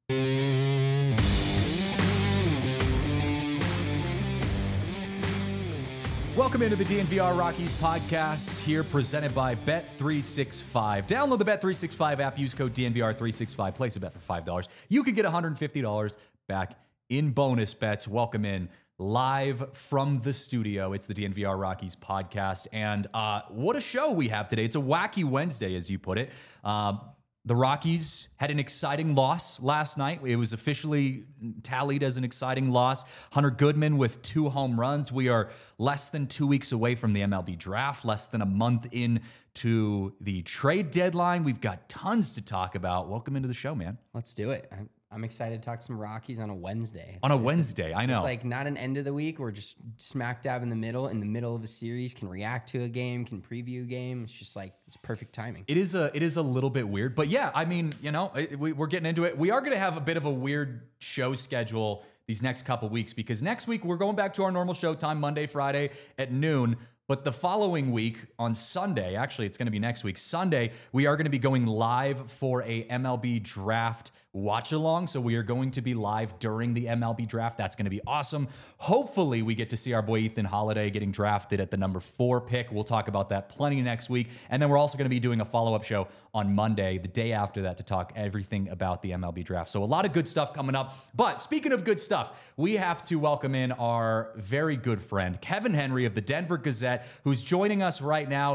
Welcome into the DNVR Rockies podcast here, presented by Bet365. Download the Bet365 app, use code DNVR365, place a bet for $5. You can get $150 back in bonus bets. Welcome in live from the studio. It's the DNVR Rockies podcast, and what a show we have today. It's a wacky Wednesday, as you put it. The Rockies had an exciting loss last night. It was officially tallied as an exciting loss. Hunter Goodman with 2 home runs. We are less than 2 weeks away from the MLB draft, less than a month into the trade deadline. We've got tons to talk about. Welcome into the show, man. Let's do it. I'm excited to talk some Rockies on a Wednesday. I know. It's like not an end of the week. We're just smack dab in the middle of a series, can react to a game, can preview a game. It's just like, it's perfect timing. It is a little bit weird, but yeah, I mean, we're getting into it. We are going to have a bit of a weird show schedule these next couple weeks, because next week we're going back to our normal show time, Monday, Friday at noon. But the following week on Sunday, actually it's going to be next week, Sunday, we are going to be going live for a MLB draft watch along. So we are going to be live during the MLB draft. That's going to be awesome. Hopefully we get to see our boy Ethan Holiday getting drafted at the number 4 pick. We'll talk about that plenty next week. And then we're also going to be doing a follow-up show on Monday, the day after that, to talk everything about the MLB draft. So a lot of good stuff coming up. But speaking of good stuff, we have to welcome in our very good friend, Kevin Henry of the Denver Gazette, who's joining us right now.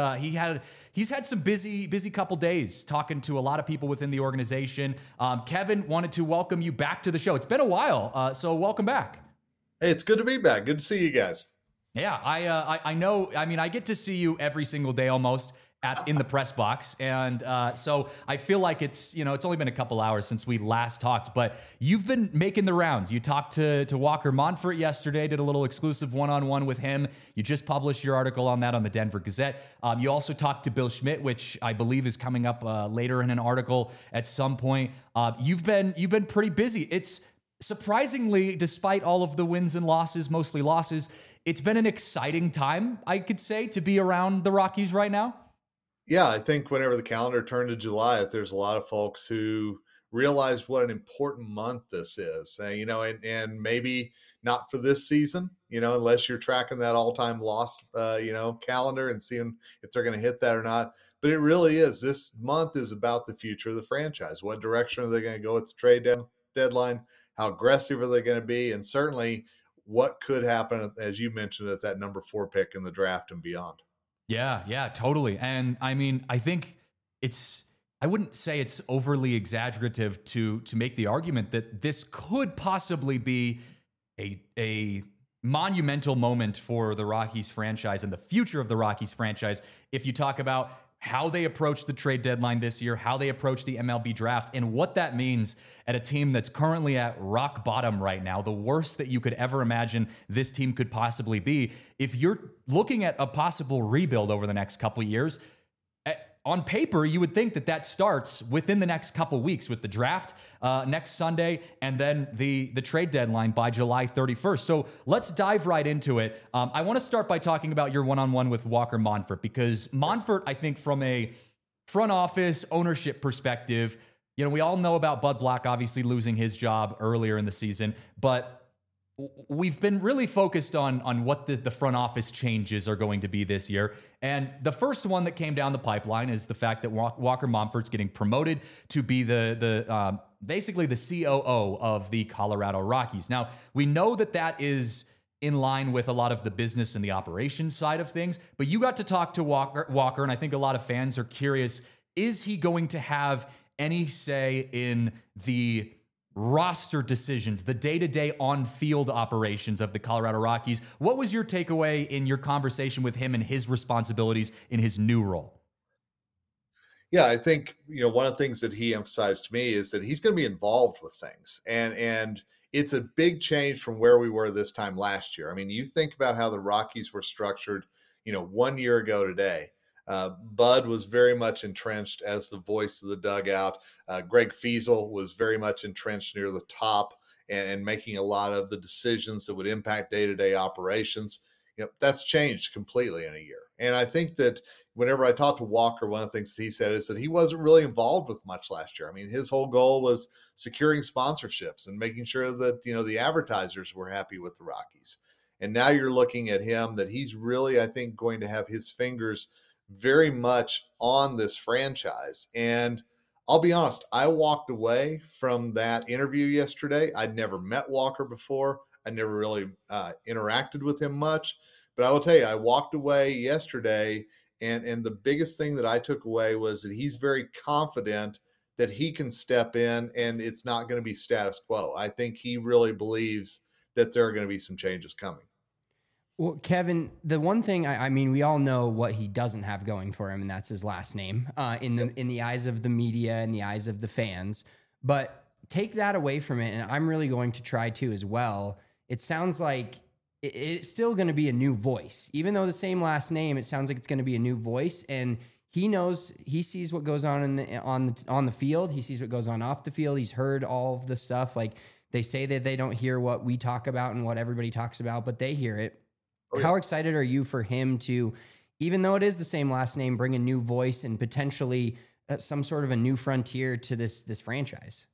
He's had some busy couple days talking to a lot of people within the organization. Kevin, wanted to welcome you back to the show. It's been a while, so welcome back. Hey, it's good to be back. Good to see you guys. Yeah, I know. I mean, I get to see you every single day almost in the press box, and so I feel like it's only been a couple hours since we last talked, but you've been making the rounds. You talked to Walker Monfort yesterday, did a little exclusive one-on-one with him. You just published your article on that on the Denver Gazette. You also talked to Bill Schmidt, which I believe is coming up later in an article at some point. You've been pretty busy. It's surprisingly, despite all of the wins and losses, mostly losses, it's been an exciting time, I could say, to be around the Rockies right now. Yeah, I think whenever the calendar turned to July, there's a lot of folks who realized what an important month this is, and maybe not for this season, unless you're tracking that all-time loss, calendar and seeing if they're going to hit that or not. But it really is. This month is about the future of the franchise. What direction are they going to go at the trade deadline? How aggressive are they going to be? And certainly what could happen, as you mentioned, at that number 4 pick in the draft and beyond. Yeah, totally. And I mean, I think I wouldn't say it's overly exaggerative to make the argument that this could possibly be a monumental moment for the Rockies franchise and the future of the Rockies franchise. If you talk about how they approach the trade deadline this year, how they approach the MLB draft, and what that means at a team that's currently at rock bottom right now, the worst that you could ever imagine this team could possibly be. If you're looking at a possible rebuild over the next couple of years, on paper, you would think that starts within the next couple weeks with the draft next Sunday and then the trade deadline by July 31st. So let's dive right into it. I want to start by talking about your one-on-one with Walker Monfort, because Monfort, I think from a front office ownership perspective, we all know about Bud Black obviously losing his job earlier in the season, but we've been really focused on what the front office changes are going to be this year. And the first one that came down the pipeline is the fact that Walker Monfort's getting promoted to be the basically the COO of the Colorado Rockies. Now, we know that is in line with a lot of the business and the operations side of things, but you got to talk to Walker, and I think a lot of fans are curious, is he going to have any say in the roster decisions, the day-to-day on-field operations of the Colorado Rockies? What was your takeaway in your conversation with him and his responsibilities in his new role? Yeah, I think, one of the things that he emphasized to me is that he's going to be involved with things. And it's a big change from where we were this time last year. I mean, you think about how the Rockies were structured, 1 year ago today. Bud was very much entrenched as the voice of the dugout. Greg Fiesel was very much entrenched near the top and making a lot of the decisions that would impact day-to-day operations. That's changed completely in a year. And I think that whenever I talked to Walker, one of the things that he said is that he wasn't really involved with much last year. I mean, his whole goal was securing sponsorships and making sure that, the advertisers were happy with the Rockies. And now you're looking at him that he's really, I think, going to have his fingers very much on this franchise. And I'll be honest, I walked away from that interview yesterday. I'd never met Walker before. I never really interacted with him much. But I will tell you, I walked away yesterday, and the biggest thing that I took away was that he's very confident that he can step in and it's not going to be status quo. I think he really believes that there are going to be some changes coming. Well, Kevin, the one thing I mean, we all know what he doesn't have going for him, and that's his last name. In the eyes of the media, in the eyes of the fans. But take that away from it, and I'm really going to try to as well. It sounds like it's still going to be a new voice, even though the same last name. It sounds like it's going to be a new voice, and he knows, he sees what goes on on the field. He sees what goes on off the field. He's heard all of the stuff. Like, they say that they don't hear what we talk about and what everybody talks about, but they hear it. Oh, yeah. How excited are you for him to, even though it is the same last name, bring a new voice and potentially some sort of a new frontier to this franchise?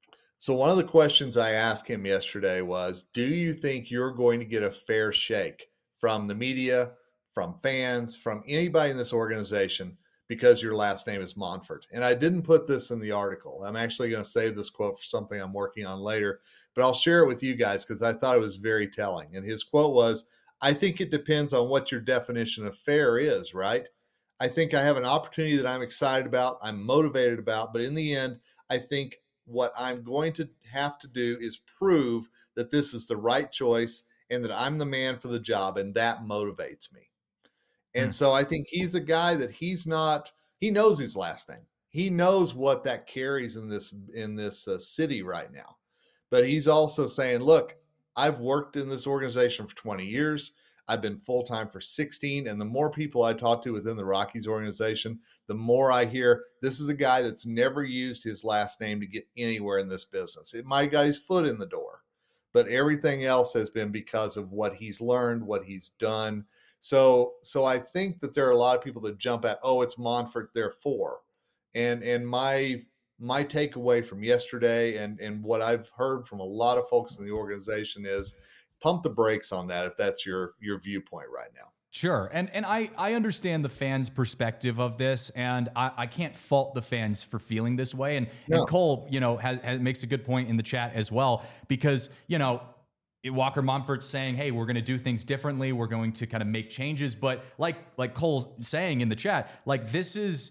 So one of the questions I asked him yesterday was, do you think you're going to get a fair shake from the media, from fans, from anybody in this organization because your last name is Monfort? And I didn't put this in the article. I'm actually going to save this quote for something I'm working on later, but I'll share it with you guys because I thought it was very telling. And his quote was, I think it depends on what your definition of fair is, right? I think I have an opportunity that I'm excited about, I'm motivated about, but in the end, I think what I'm going to have to do is prove that this is the right choice and that I'm the man for the job, and that motivates me. And so I think he's a guy that he knows his last name. He knows what that carries in this city right now. But he's also saying, look, I've worked in this organization for 20 years. I've been full-time for 16. And the more people I talk to within the Rockies organization, the more I hear this is a guy that's never used his last name to get anywhere in this business. It might have got his foot in the door, but everything else has been because of what he's learned, what he's done. So I think that there are a lot of people that jump at, oh, it's Monfort, therefore. And my takeaway from yesterday and what I've heard from a lot of folks in the organization is pump the brakes on that if that's your viewpoint right now. Sure. And I understand the fans' perspective of this, and I can't fault the fans for feeling this way. And Cole, makes a good point in the chat as well, because, Walker Monfort's saying, hey, we're going to do things differently. We're going to kind of make changes. But like Cole saying in the chat, like his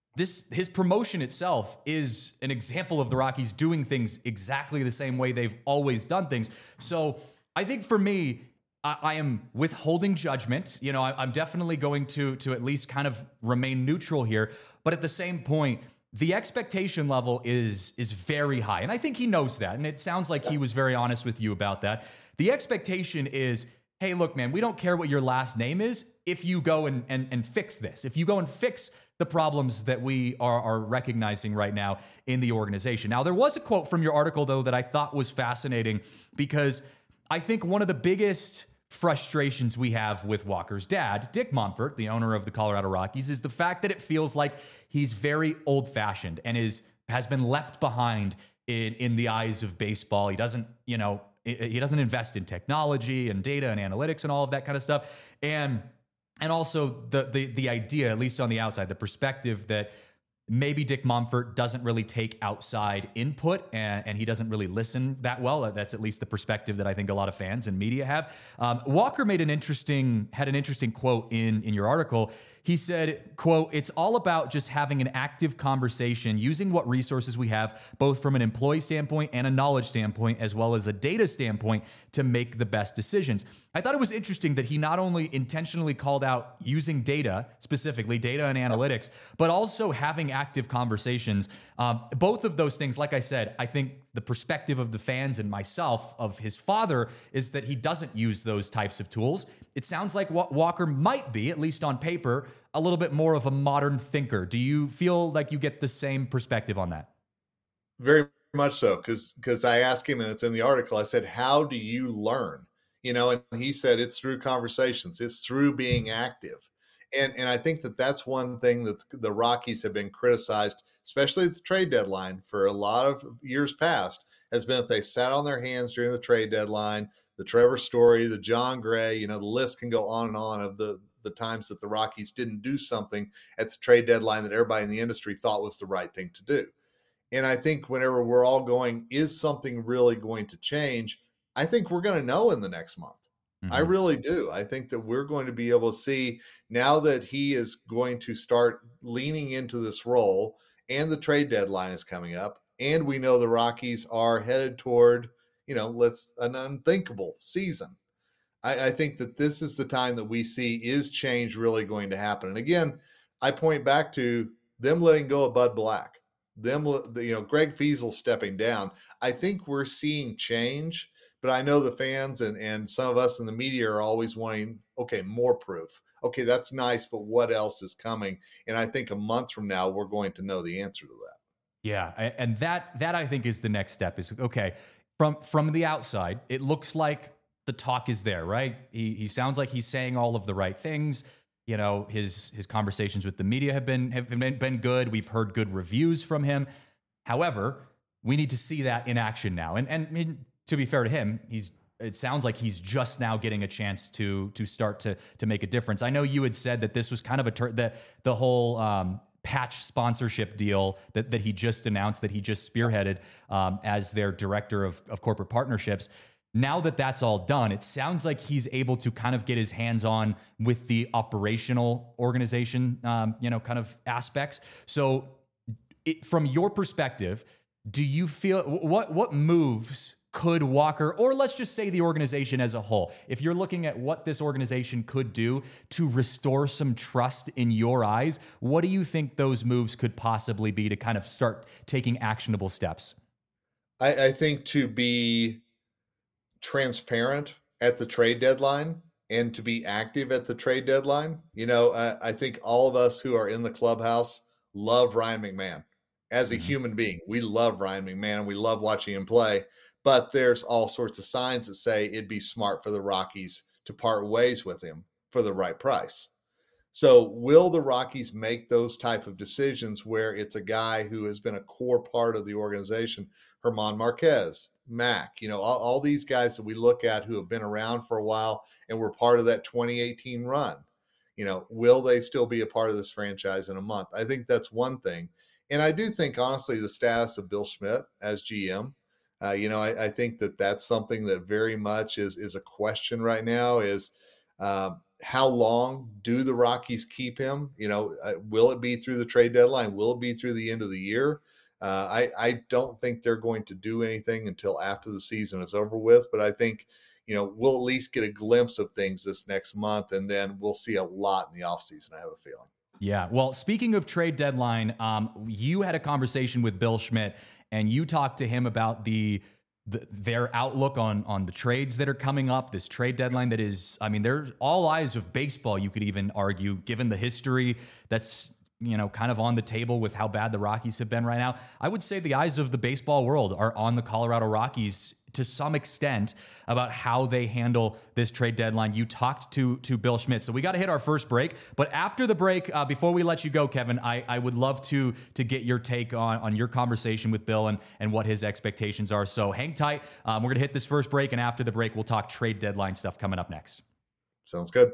promotion itself is an example of the Rockies doing things exactly the same way they've always done things. So I think for me, I am withholding judgment. I'm definitely going to at least kind of remain neutral here. But at the same point, the expectation level is very high. And I think he knows that. And it sounds like he was very honest with you about that. The expectation is, hey, look, man, we don't care what your last name is if you go and fix this. If you go and fix the problems that we are recognizing right now in the organization. Now, there was a quote from your article, though, that I thought was fascinating, because I think one of the biggest frustrations we have with Walker's dad, Dick Monfort, the owner of the Colorado Rockies, is the fact that it feels like he's very old-fashioned and has been left behind in the eyes of baseball. He doesn't invest in technology and data and analytics and all of that kind of stuff. And also the idea, at least on the outside, the perspective that maybe Dick Monfort doesn't really take outside input and he doesn't really listen that well. That's at least the perspective that I think a lot of fans and media have. Walker had an interesting quote in your article. He said, quote, "It's all about just having an active conversation, using what resources we have, both from an employee standpoint and a knowledge standpoint, as well as a data standpoint, to make the best decisions." I thought it was interesting that he not only intentionally called out using data, specifically data and analytics, but also having active conversations. Both of those things, like I said, I think the perspective of the fans and myself of his father is that he doesn't use those types of tools. It sounds like Walker might be, at least on paper, a little bit more of a modern thinker. Do you feel like you get the same perspective on that? Very much so, because I asked him, and it's in the article, I said, how do you learn? And he said, it's through conversations. It's through being active. And I think that that's one thing that the Rockies have been criticized, especially at the trade deadline for a lot of years past, has been if they sat on their hands during the trade deadline. The Trevor Story, the John Gray, the list can go on and on of the times that the Rockies didn't do something at the trade deadline that everybody in the industry thought was the right thing to do. And I think whenever we're all going, is something really going to change? I think we're going to know in the next month. I really do. I think that we're going to be able to see now that he is going to start leaning into this role and the trade deadline is coming up. And we know the Rockies are headed toward, an unthinkable season. I think that this is the time that we see is change really going to happen. And again, I point back to them letting go of Bud Black, Greg Feasel stepping down. I think we're seeing change. But I know the fans and some of us in the media are always wanting, okay, more proof. Okay, that's nice, but what else is coming? And I think a month from now, we're going to know the answer to that. Yeah, and that I think is the next step is, okay, from the outside, it looks like the talk is there, right? He sounds like he's saying all of the right things. His conversations with the media have been good. We've heard good reviews from him. However, we need to see that in action now. And to be fair to him, it sounds like he's just now getting a chance to start to make a difference. I know you had said that this was kind of the whole patch sponsorship deal that he just announced, that he just spearheaded as their director of corporate partnerships. Now that that's all done, it sounds like he's able to kind of get his hands on with the operational organization, kind of aspects. So from your perspective, do you feel what moves could Walker, or let's just say the organization as a whole, if you're looking at what this organization could do to restore some trust in your eyes, what do you think those moves could possibly be to kind of start taking actionable steps? I think to be transparent at the trade deadline and to be active at the trade deadline. I think all of us who are in the clubhouse love Ryan McMahon as a human being. We love Ryan McMahon and we love watching him play. But there's all sorts of signs that say it'd be smart for the Rockies to part ways with him for the right price. So will the Rockies make those type of decisions where it's a guy who has been a core part of the organization, German Marquez, Mac, all these guys that we look at who have been around for a while and were part of that 2018 run, will they still be a part of this franchise in a month? I think that's one thing. And I do think, honestly, the status of Bill Schmidt as GM, I think that that's something that very much is a question right now is how long do the Rockies keep him? Will it be through the trade deadline? Will it be through the end of the year? I don't think they're going to do anything until after the season is over with. But I think, we'll at least get a glimpse of things this next month, and then we'll see a lot in the offseason, I have a feeling. Yeah. Well, speaking of trade deadline, you had a conversation with Bill Schmidt, and you talked to him about their outlook on the trades that are coming up, this trade deadline that is, there's all eyes of baseball, you could even argue, given the history that's, kind of on the table with how bad the Rockies have been right now. I would say the eyes of the baseball world are on the Colorado Rockies to some extent about how they handle this trade deadline. You talked to Bill Schmidt. So we got to hit our first break. But after the break, before we let you go, Kevin, I would love to get your take on your conversation with Bill and what his expectations are. So hang tight. We're going to hit this first break. And after the break, we'll talk trade deadline stuff coming up next. Sounds good.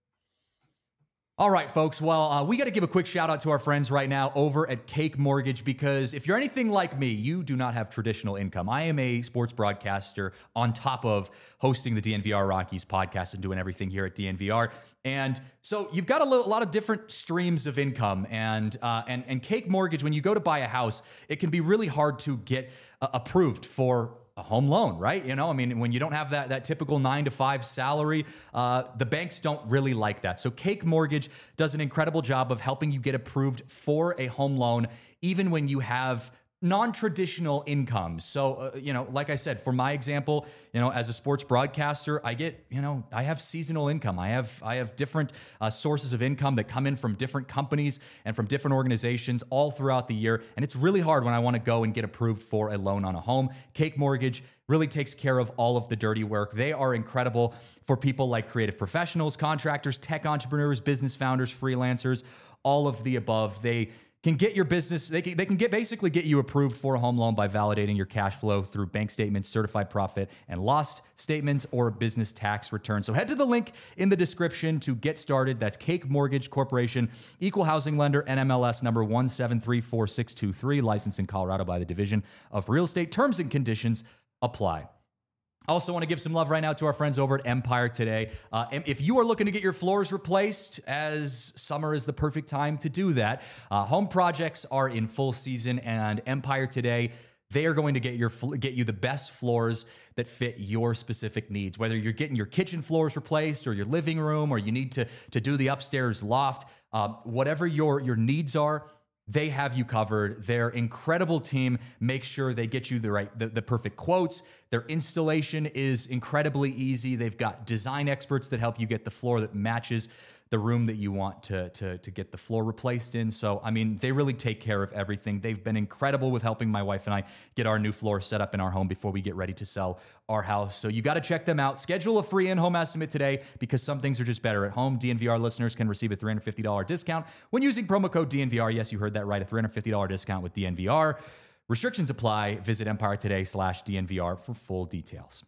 All right, folks. Well, we got to give a quick shout out to our friends right now over at Cake Mortgage, because if you're anything like me, you do not have traditional income. I am a sports broadcaster on top of hosting the DNVR Rockies podcast and doing everything here at DNVR. And so you've got a lot of different streams of income, and Cake Mortgage, when you go to buy a house, it can be really hard to get approved for a home loan, right? When you don't have that typical 9-to-5 salary, the banks don't really like that. So Cake Mortgage does an incredible job of helping you get approved for a home loan, even when you have non-traditional incomes. So, like I said, for my example, as a sports broadcaster, I get, I have seasonal income. I have different sources of income that come in from different companies and from different organizations all throughout the year. And it's really hard when I want to go and get approved for a loan on a home. Cake Mortgage really takes care of all of the dirty work. They are incredible for people like creative professionals, contractors, tech entrepreneurs, business founders, freelancers, all of the above. They can get your business, they can basically get you approved for a home loan by validating your cash flow through bank statements, certified profit and loss statements, or business tax returns. So head to the link in the description to get started. That's Cake Mortgage Corporation, equal housing lender, NMLS number 1734623, licensed in Colorado by the Division of Real Estate. Terms and conditions apply. I also want to give some love right now to our friends over at Empire Today. If you are looking to get your floors replaced, as summer is the perfect time to do that, home projects are in full season, and Empire Today, they are going to get you the best floors that fit your specific needs. Whether you're getting your kitchen floors replaced or your living room, or you need to do the upstairs loft, whatever your needs are, they have you covered. Their incredible team makes sure they get you the perfect quotes. Their installation is incredibly easy. They've got design experts that help you get the floor that matches the room that you want to get the floor replaced in. So, I mean, they really take care of everything. They've been incredible with helping my wife and I get our new floor set up in our home before we get ready to sell our house. So you got to check them out. Schedule a free in-home estimate today, because some things are just better at home. DNVR listeners can receive a $350 discount when using promo code DNVR. Yes, you heard that right. A $350 discount with DNVR. Restrictions apply. Visit EmpireToday/DNVR for full details.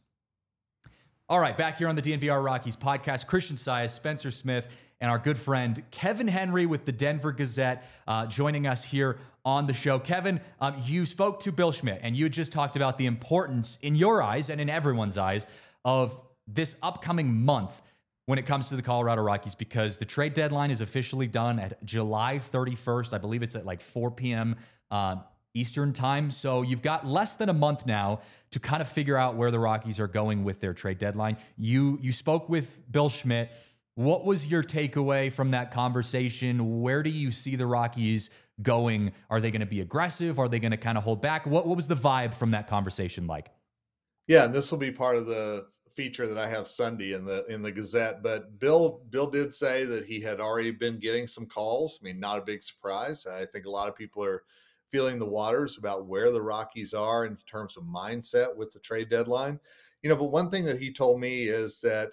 All right, back here on the DNVR Rockies podcast, Christian Sias, Spencer Smith, and our good friend Kevin Henry with the Denver Gazette joining us here on the show. Kevin, you spoke to Bill Schmidt, and you just talked about the importance in your eyes and in everyone's eyes of this upcoming month when it comes to the Colorado Rockies, because the trade deadline is officially done at July 31st. I believe it's at like 4 p.m. Eastern time. So you've got less than a month now to kind of figure out where the Rockies are going with their trade deadline. You spoke with Bill Schmidt. What was your takeaway from that conversation? Where do you see the Rockies going? Are they going to be aggressive? Are they going to kind of hold back? What was the vibe from that conversation like? Yeah, and this will be part of the feature that I have Sunday in the Gazette. But Bill did say that he had already been getting some calls. I mean, not a big surprise. I think a lot of people are feeling the waters about where the Rockies are in terms of mindset with the trade deadline. But one thing that he told me is that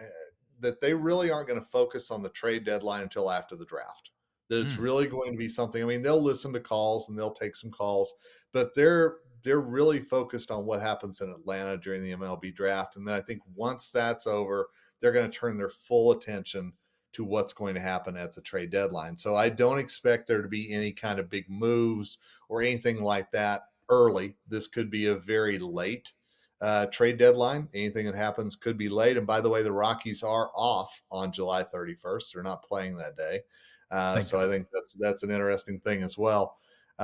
they really aren't going to focus on the trade deadline until after the draft. That it's really going to be something. I mean, they'll listen to calls and they'll take some calls, but they're really focused on what happens in Atlanta during the MLB draft. And then I think once that's over, they're going to turn their full attention to what's going to happen at the trade deadline. So I don't expect there to be any kind of big moves or anything like that early. This could be a very late trade deadline. Anything that happens could be late. And by the way, the Rockies are off on July 31st. They're not playing that day. So I think that's an interesting thing as well.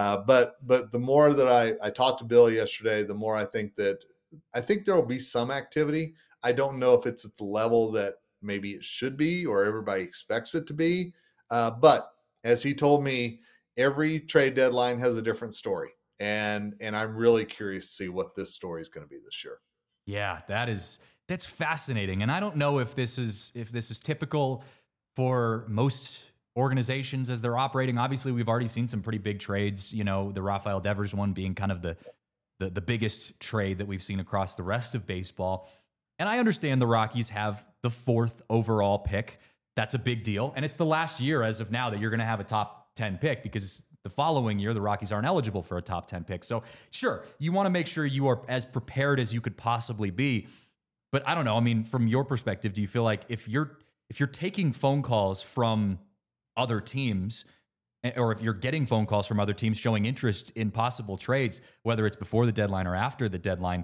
But the more that I talked to Bill yesterday, the more I think there will be some activity. I don't know if it's at the level that maybe it should be or everybody expects it to be. But as he told me, every trade deadline has a different story. And I'm really curious to see what this story is going to be this year. Yeah, that's fascinating. And I don't know if this is typical for most organizations as they're operating. Obviously, we've already seen some pretty big trades, the Rafael Devers one being kind of the biggest trade that we've seen across the rest of baseball. And I understand the Rockies have the 4th overall pick. That's a big deal. And it's the last year as of now that you're going to have a top 10 pick, because the following year, the Rockies aren't eligible for a top 10 pick. So sure, you want to make sure you are as prepared as you could possibly be. But I don't know. I mean, from your perspective, do you feel like if you're taking phone calls from other teams, or if you're getting phone calls from other teams showing interest in possible trades, whether it's before the deadline or after the deadline,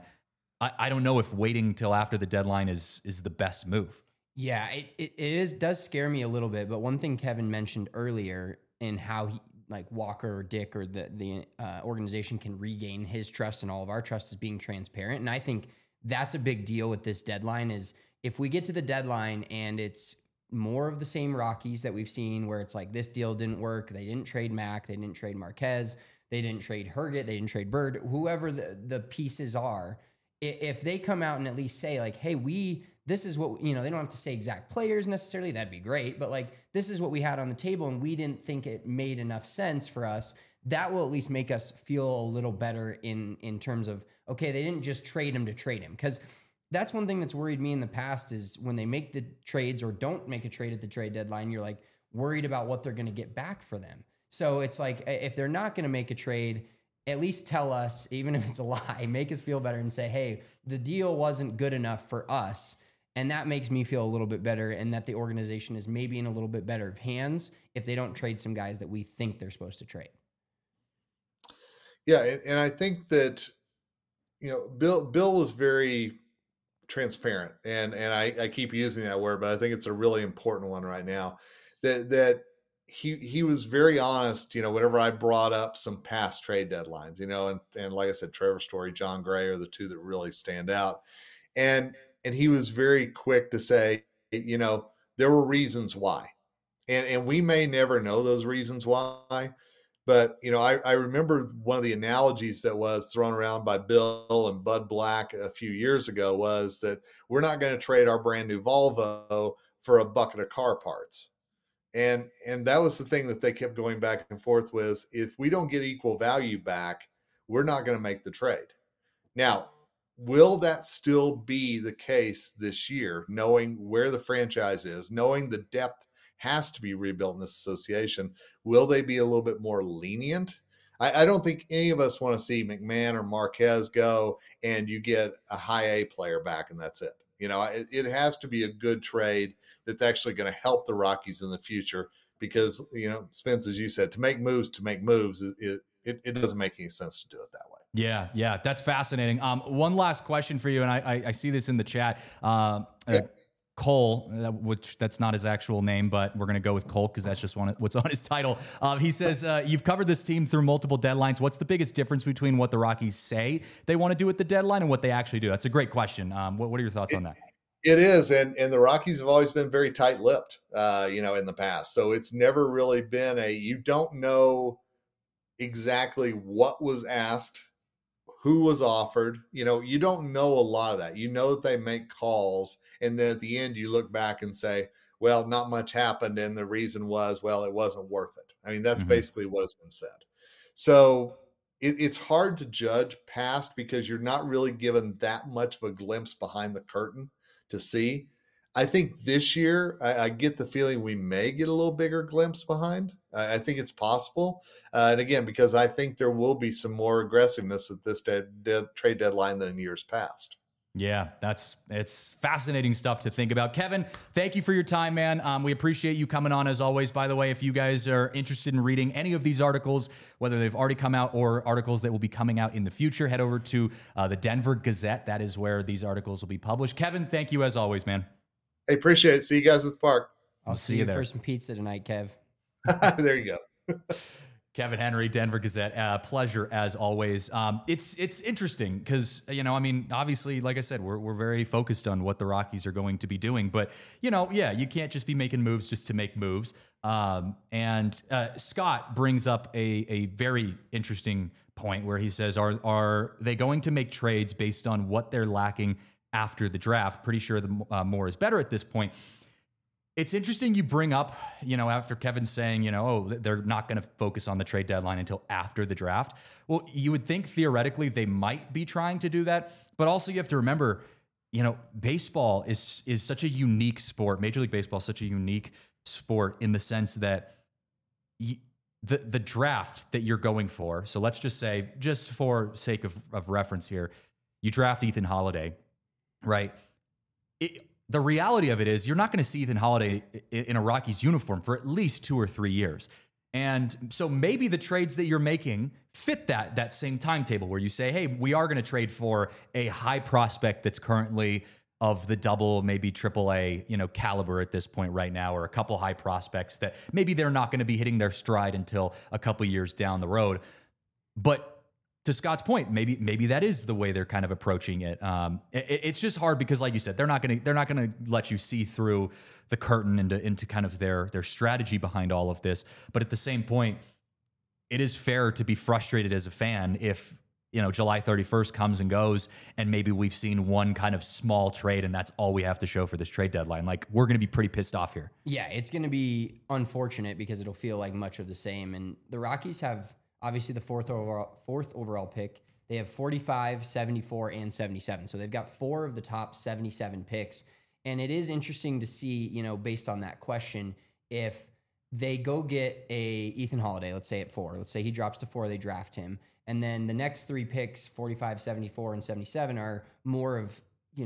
I don't know if waiting till after the deadline is the best move. Yeah, it does scare me a little bit. But one thing Kevin mentioned earlier in how Walker or Dick or the organization can regain his trust and all of our trust is being transparent. And I think that's a big deal with this deadline, is if we get to the deadline and it's more of the same Rockies that we've seen, where it's like, this deal didn't work, they didn't trade Mac, they didn't trade Marquez, they didn't trade Herget, they didn't trade Bird, whoever the pieces are. If they come out and at least say like, hey, this is what, they don't have to say exact players necessarily, that'd be great, but like, this is what we had on the table and we didn't think it made enough sense for us. That will at least make us feel a little better in terms of, okay, they didn't just trade him to trade him. Because that's one thing that's worried me in the past is when they make the trades or don't make a trade at the trade deadline, you're like worried about what they're going to get back for them. So it's like, if they're not going to make a trade, at least tell us, even if it's a lie, make us feel better and say, hey, the deal wasn't good enough for us. And that makes me feel a little bit better, and that the organization is maybe in a little bit better hands if they don't trade some guys that we think they're supposed to trade. Yeah. And I think that, Bill was very transparent, and I keep using that word, but I think it's a really important one right now, that he was very honest, whenever I brought up some past trade deadlines, and like I said, Trevor Story, John Gray are the two that really stand out. And he was very quick to say, there were reasons why. And we may never know those reasons why, but, I remember one of the analogies that was thrown around by Bill and Bud Black a few years ago was that we're not going to trade our brand new Volvo for a bucket of car parts. And that was the thing that they kept going back and forth with. If we don't get equal value back, we're not going to make the trade. Now, will that still be the case this year, knowing where the franchise is, knowing the depth has to be rebuilt in this association? Will they be a little bit more lenient? I don't think any of us want to see McMahon or Marquez go and you get a high A player back and that's it. It has to be a good trade that's actually going to help the Rockies in the future because, Spence, as you said, to make moves, it doesn't make any sense to do it that way. Yeah, that's fascinating. One last question for you, and I see this in the chat. Cole, which that's not his actual name, but we're going to go with Cole because that's just what's on his title. He says, you've covered this team through multiple deadlines. What's the biggest difference between what the Rockies say they want to do at the deadline and what they actually do? That's a great question. What are your thoughts on that? It is. And the Rockies have always been very tight-lipped, in the past. So it's never really been you don't know exactly what was asked, who was offered. You don't know a lot of that. That they make calls, and then at the end you look back and say, well, not much happened, and the reason was, well, it wasn't worth it. I mean, that's basically what has been said. So it's hard to judge past because you're not really given that much of a glimpse behind the curtain to see. I think this year, I get the feeling we may get a little bigger glimpse behind. I think it's possible. And again, because I think there will be some more aggressiveness at this trade deadline than in years past. Yeah, it's fascinating stuff to think about. Kevin, thank you for your time, man. We appreciate you coming on as always. By the way, if you guys are interested in reading any of these articles, whether they've already come out or articles that will be coming out in the future, head over to the Denver Gazette. That is where these articles will be published. Kevin, thank you as always, man. I appreciate it. See you guys at the park. I'll see you there for some pizza tonight, Kev. There you go. Kevin Henry, Denver Gazette. Pleasure as always. It's interesting because, obviously, like I said, we're very focused on what the Rockies are going to be doing. But, you can't just be making moves just to make moves. And Scott brings up a very interesting point where he says, are they going to make trades based on what they're lacking after the draft? Pretty sure the more is better at this point. It's interesting you bring up, after Kevin's saying, they're not going to focus on the trade deadline until after the draft. Well, you would think theoretically they might be trying to do that, but also you have to remember, baseball is such a unique sport. Major League Baseball is such a unique sport in the sense that the draft that you're going for. So let's just say, just for sake of reference here, you draft Ethan Holiday, right? The reality of it is you're not going to see Ethan Holiday in a Rockies uniform for at least 2 or 3 years. And so maybe the trades that you're making fit that same timetable where you say, hey, we are going to trade for a high prospect that's currently of the double, maybe triple A, caliber at this point right now, or a couple high prospects that maybe they're not going to be hitting their stride until a couple years down the road. But to Scott's point, maybe that is the way they're kind of approaching it. It's just hard because, like you said, they're not going to let you see through the curtain into kind of their strategy behind all of this. But at the same point, it is fair to be frustrated as a fan if, July 31st comes and goes, and maybe we've seen one kind of small trade, and that's all we have to show for this trade deadline. Like, we're going to be pretty pissed off here. Yeah, it's going to be unfortunate because it'll feel like much of the same. And the Rockies have obviously the fourth overall pick. They have 45, 74, and 77. So they've got 4 of the top 77 picks. And it is interesting to see, based on that question, if they go get a Ethan Holiday, let's say at 4. Let's say he drops to 4, they draft him. And then the next 3 picks, 45, 74, and 77, are more of,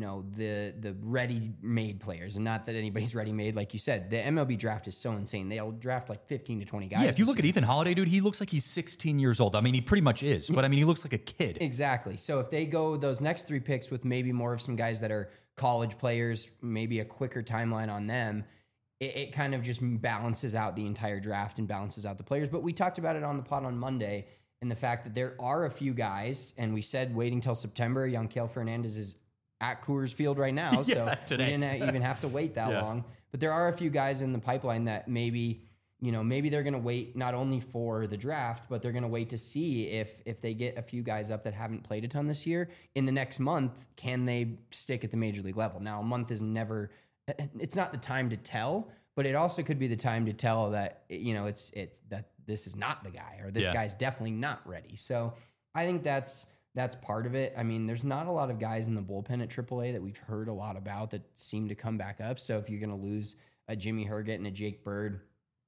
the ready-made players. And not that anybody's ready-made. Like you said, the MLB draft is so insane. They'll draft like 15 to 20 guys. Yeah, if you look at Ethan Holiday, dude, he looks like he's 16 years old. I mean, he pretty much is. But, I mean, he looks like a kid. Exactly. So if they go those next 3 picks with maybe more of some guys that are college players, maybe a quicker timeline on them, it kind of just balances out the entire draft and balances out the players. But we talked about it on the pod on Monday, and the fact that there are a few guys, and we said waiting till September. Yanquiel Fernandez is at Coors Field right now, so today. We didn't even have to wait that long. But there are a few guys in the pipeline that maybe they're going to wait not only for the draft, but they're going to wait to see if they get a few guys up that haven't played a ton this year. In the next month, can they stick at the major league level? Now, a month is never... It's not the time to tell, but it also could be the time to tell that, it's that this is not the guy, or this guy's definitely not ready. So I think that's part of it. I mean, there's not a lot of guys in the bullpen at AAA that we've heard a lot about that seem to come back up. So if you're going to lose a Jimmy Herget and a Jake Bird,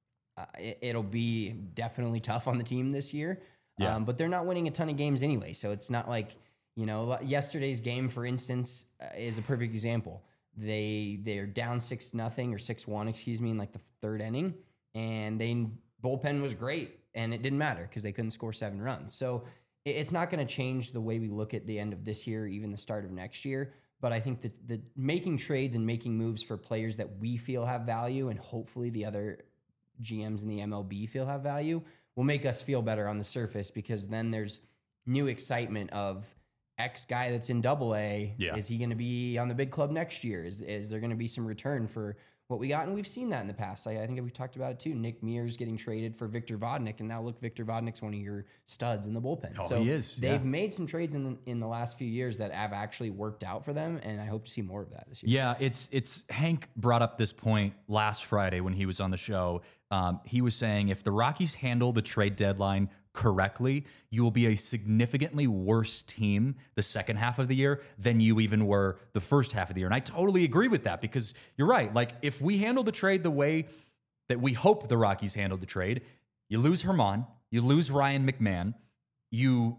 it'll be definitely tough on the team this year. Yeah. But they're not winning a ton of games anyway. So it's not like, yesterday's game, for instance, is a perfect example. They're down 6-0 or 6-1, in like the 3rd inning, and bullpen was great, and it didn't matter because they couldn't score 7 runs. So it's not going to change the way we look at the end of this year, even the start of next year. But I think that the making trades and making moves for players that we feel have value, and hopefully the other GMs in the MLB feel have value, will make us feel better on the surface, because then there's new excitement of X guy that's in AA. Yeah. Is he going to be on the big club next year? Is there going to be some return for what we got? And we've seen that in the past. I think we've talked about it too. Nick Mears getting traded for Victor Vodnik, and now look, Victor Vodnik's one of your studs in the bullpen. Oh, so he is. They've made some trades in the last few years that have actually worked out for them, and I hope to see more of that this year. Yeah, it's Hank brought up this point last Friday when he was on the show. He was saying if the Rockies handle the trade deadline correctly, you will be a significantly worse team the second half of the year than you even were the first half of the year. And I totally agree with that, because you're right. Like, if we handle the trade the way that we hope the Rockies handled the trade, you lose Herman, you lose Ryan McMahon, you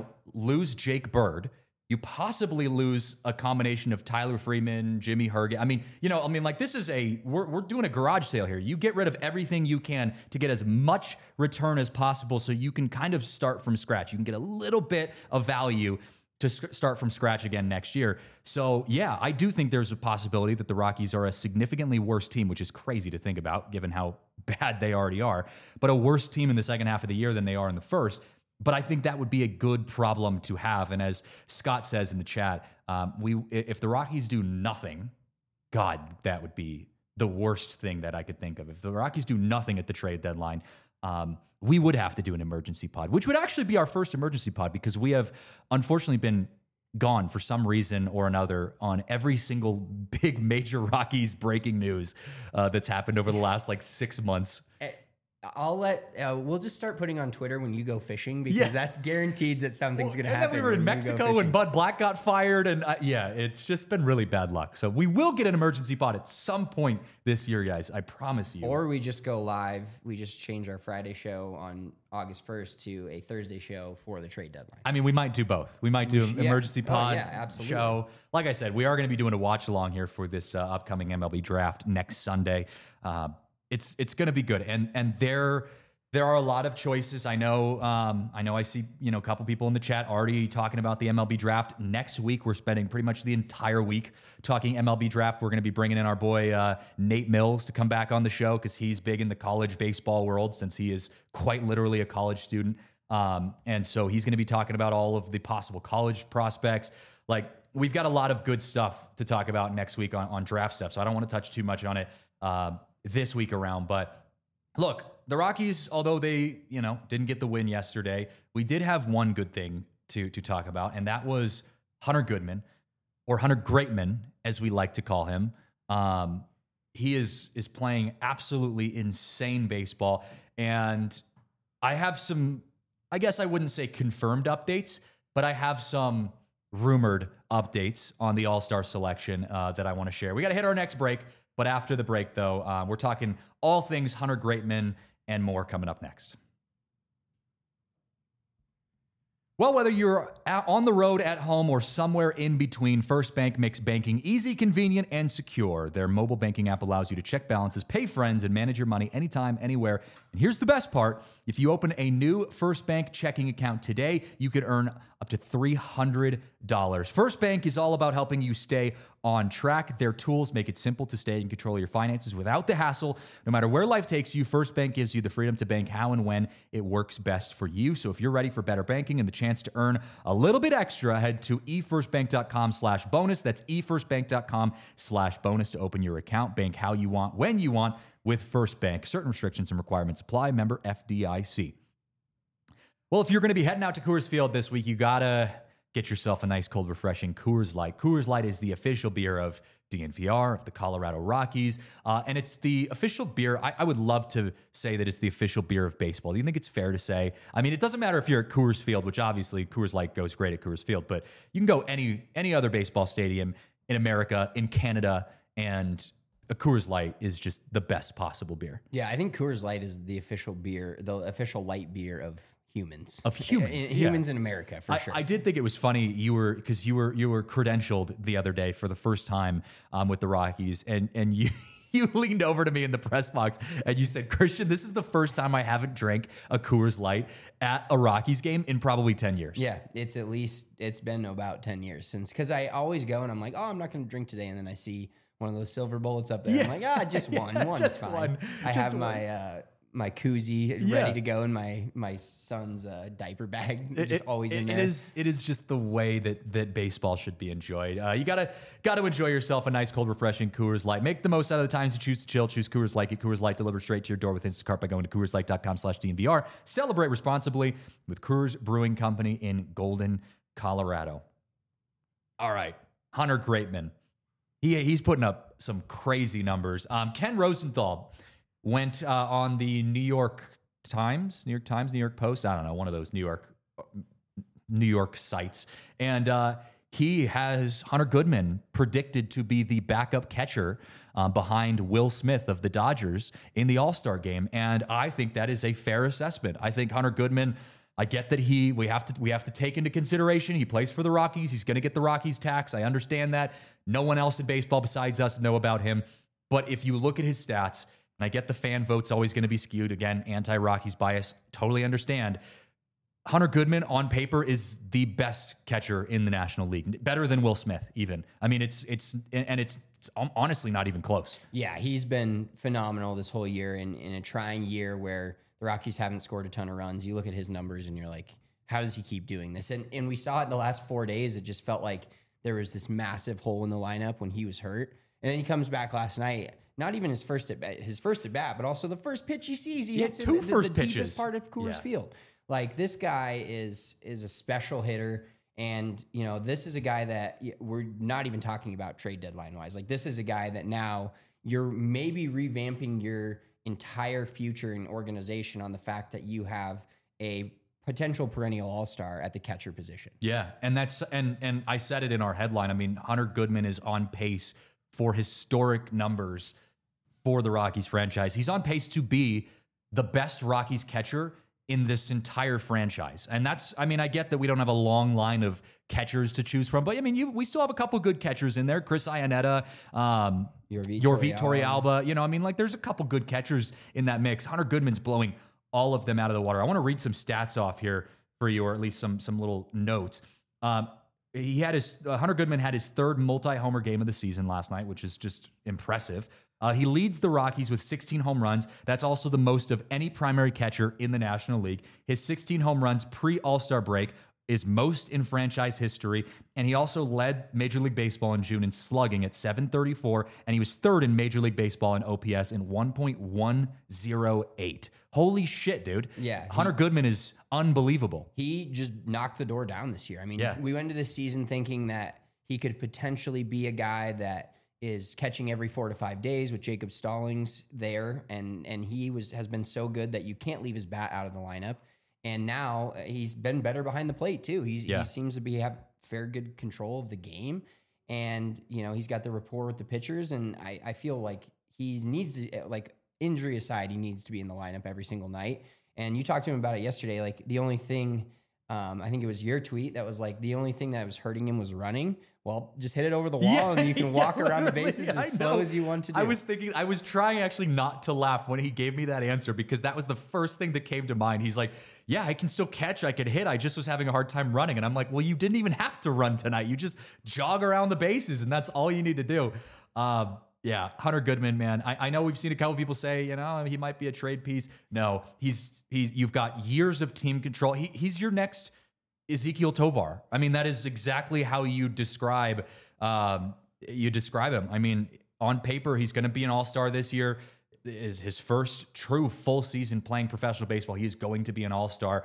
lose Jake Bird, you possibly lose a combination of Tyler Freeman, Jimmy Herget. Like, this is we're doing a garage sale here. You get rid of everything you can to get as much return as possible, so you can kind of start from scratch. You can get a little bit of value to start from scratch again next year. So yeah, I do think there's a possibility that the Rockies are a significantly worse team, which is crazy to think about given how bad they already are, but a worse team in the second half of the year than they are in the first. But I think that would be a good problem to have. And as Scott says in the chat, if the Rockies do nothing, God, that would be the worst thing that I could think of. If the Rockies do nothing at the trade deadline, we would have to do an emergency pod, which would actually be our first emergency pod, because we have unfortunately been gone for some reason or another on every single big major Rockies breaking news that's happened over the last 6 months. We'll just start putting on Twitter when you go fishing, because that's guaranteed that something's going to happen. And then we were in Mexico when Bud Black got fired, and it's just been really bad luck. So we will get an emergency pod at some point this year, guys. I promise you. Or we just go live. We just change our Friday show on August 1st to a Thursday show for the trade deadline. I mean, we might do both. We might do an emergency pod absolutely. show. Like I said, we are going to be doing a watch along here for this upcoming MLB draft next Sunday. It's going to be good, and there are a lot of choices. I know I see a couple people in the chat already talking about the MLB draft. Next week we're spending pretty much the entire week talking MLB draft. We're going to be bringing in our boy Nate Mills to come back on the show, because he's big in the college baseball world, since he is quite literally a college student, and so he's going to be talking about all of the possible college prospects. We've got a lot of good stuff to talk about next week on draft stuff, so I don't want to touch too much on it this week around. But look, the Rockies, although they, didn't get the win yesterday, we did have one good thing to talk about, and that was Hunter Goodman, or Hunter Greatman, as we like to call him. He is playing absolutely insane baseball, and I have some, I guess I wouldn't say confirmed updates, but I have some rumored updates on the All-Star selection that I want to share. We got to hit our next break, but after the break, though, we're talking all things Hunter Greatman and more coming up next. Well, whether you're on the road, at home, or somewhere in between, First Bank makes banking easy, convenient, and secure. Their mobile banking app allows you to check balances, pay friends, and manage your money anytime, anywhere. And here's the best part. If you open a new First Bank checking account today, you could earn up to $300. First Bank is all about helping you stay on track. Their tools make it simple to stay in control of your finances without the hassle. No matter where life takes you, First Bank gives you the freedom to bank how and when it works best for you. So if you're ready for better banking and the chance to earn a little bit extra, head to efirstbank.com/bonus. That's efirstbank.com/bonus to open your account. Bank how you want, when you want with First Bank. Certain restrictions and requirements apply. Member FDIC. Well, if you're going to be heading out to Coors Field this week, you got to get yourself a nice, cold, refreshing Coors Light. Coors Light is the official beer of DNVR, of the Colorado Rockies, and it's the official beer. I would love to say that it's the official beer of baseball. Do you think it's fair to say? I mean, it doesn't matter if you're at Coors Field, which obviously Coors Light goes great at Coors Field, but you can go any other baseball stadium in America, in Canada, and a Coors Light is just the best possible beer. Yeah, I think Coors Light is the official beer, the official light beer of humans. Humans in America, for sure. I did think it was funny you were credentialed the other day for the first time with the Rockies, and you you leaned over to me in the press box and you said, Christian, this is the first time I haven't drank a Coors Light at a Rockies game in probably 10 years. Yeah, it's been about 10 years since, because I always go and I'm like, oh, I'm not going to drink today, and then I see one of those silver bullets up there. Yeah. I'm like, just one. One just is fine. One. I have my koozie ready to go in my son's diaper bag, just always in there. It is just the way that baseball should be enjoyed. You gotta enjoy yourself a nice, cold, refreshing Coors Light. Make the most out of the times you choose to chill. Choose Coors Light. Get Coors Light delivered straight to your door with Instacart by going to CoorsLight.com/DNVR. Celebrate responsibly with Coors Brewing Company in Golden, Colorado. All right, Hunter Greatman. He's putting up some crazy numbers. Ken Rosenthal went on the New York Post, I don't know, one of those New York sites. And he has Hunter Goodman predicted to be the backup catcher behind Will Smith of the Dodgers in the All-Star game. And I think that is a fair assessment. I think Hunter Goodman, I get that we have to take into consideration he plays for the Rockies. He's going to get the Rockies tax. I understand that. No one else in baseball besides us know about him. But if you look at his stats, and I get the fan vote's always going to be skewed. Again, anti-Rockies bias. Totally understand. Hunter Goodman on paper is the best catcher in the National League. Better than Will Smith, even. I mean, it's honestly not even close. Yeah, he's been phenomenal this whole year in a trying year where the Rockies haven't scored a ton of runs. You look at his numbers and you're like, how does he keep doing this? And we saw it in the last 4 days. It just felt like there was this massive hole in the lineup when he was hurt. And then he comes back last night. Not even his first at bat, but also the first pitch he sees. He hits two first the pitches. Deepest part of Coors Field. Like, this guy is a special hitter. And, you know, this is a guy that we're not even talking about trade deadline wise. Like, this is a guy that now you're maybe revamping your entire future and organization on the fact that you have a potential perennial all-star at the catcher position. Yeah. And and I said it in our headline. I mean, Hunter Goodman is on pace for historic numbers for the Rockies franchise. He's on pace to be the best Rockies catcher in this entire franchise. And I get that we don't have a long line of catchers to choose from, but I mean, we still have a couple good catchers in there. Chris Iannetta, Yorvit Torrealba. You know, I mean, like, there's a couple good catchers in that mix. Hunter Goodman's blowing all of them out of the water. I want to read some stats off here for you, or at least some little notes. Hunter Goodman had his third multi-homer game of the season last night, which is just impressive. He leads the Rockies with 16 home runs. That's also the most of any primary catcher in the National League. His 16 home runs pre-All-Star break is most in franchise history. And he also led Major League Baseball in June in slugging at 734. And he was third in Major League Baseball in OPS in 1.108. Holy shit, dude. Yeah. Hunter Goodman is unbelievable. He just knocked the door down this year. I mean, Yeah. we went into this season thinking that he could potentially be a guy that is catching every 4 to 5 days with Jacob Stallings there. And he has been so good that you can't leave his bat out of the lineup. And now he's been better behind the plate too. He seems to have fair good control of the game. And, you know, he's got the rapport with the pitchers. And I feel like he needs to, like, injury aside, he needs to be in the lineup every single night. And you talked to him about it yesterday. Like, the only thing, I think it was your tweet that was like, the only thing that was hurting him was running. Well, just hit it over the wall and you can walk around the bases as slow as you want to do. I was trying actually not to laugh when he gave me that answer, because that was the first thing that came to mind. He's like, yeah, I can still catch, I could hit. I just was having a hard time running. And I'm like, well, you didn't even have to run tonight. You just jog around the bases and that's all you need to do. Yeah, Hunter Goodman, man. I know we've seen a couple people say, you know, he might be a trade piece. No, you've got years of team control. He's your next Ezekiel Tovar. I mean, that is exactly how you describe him. I mean, on paper, he's going to be an all-star this year. Is his first true full season playing professional baseball. He is going to be an all-star.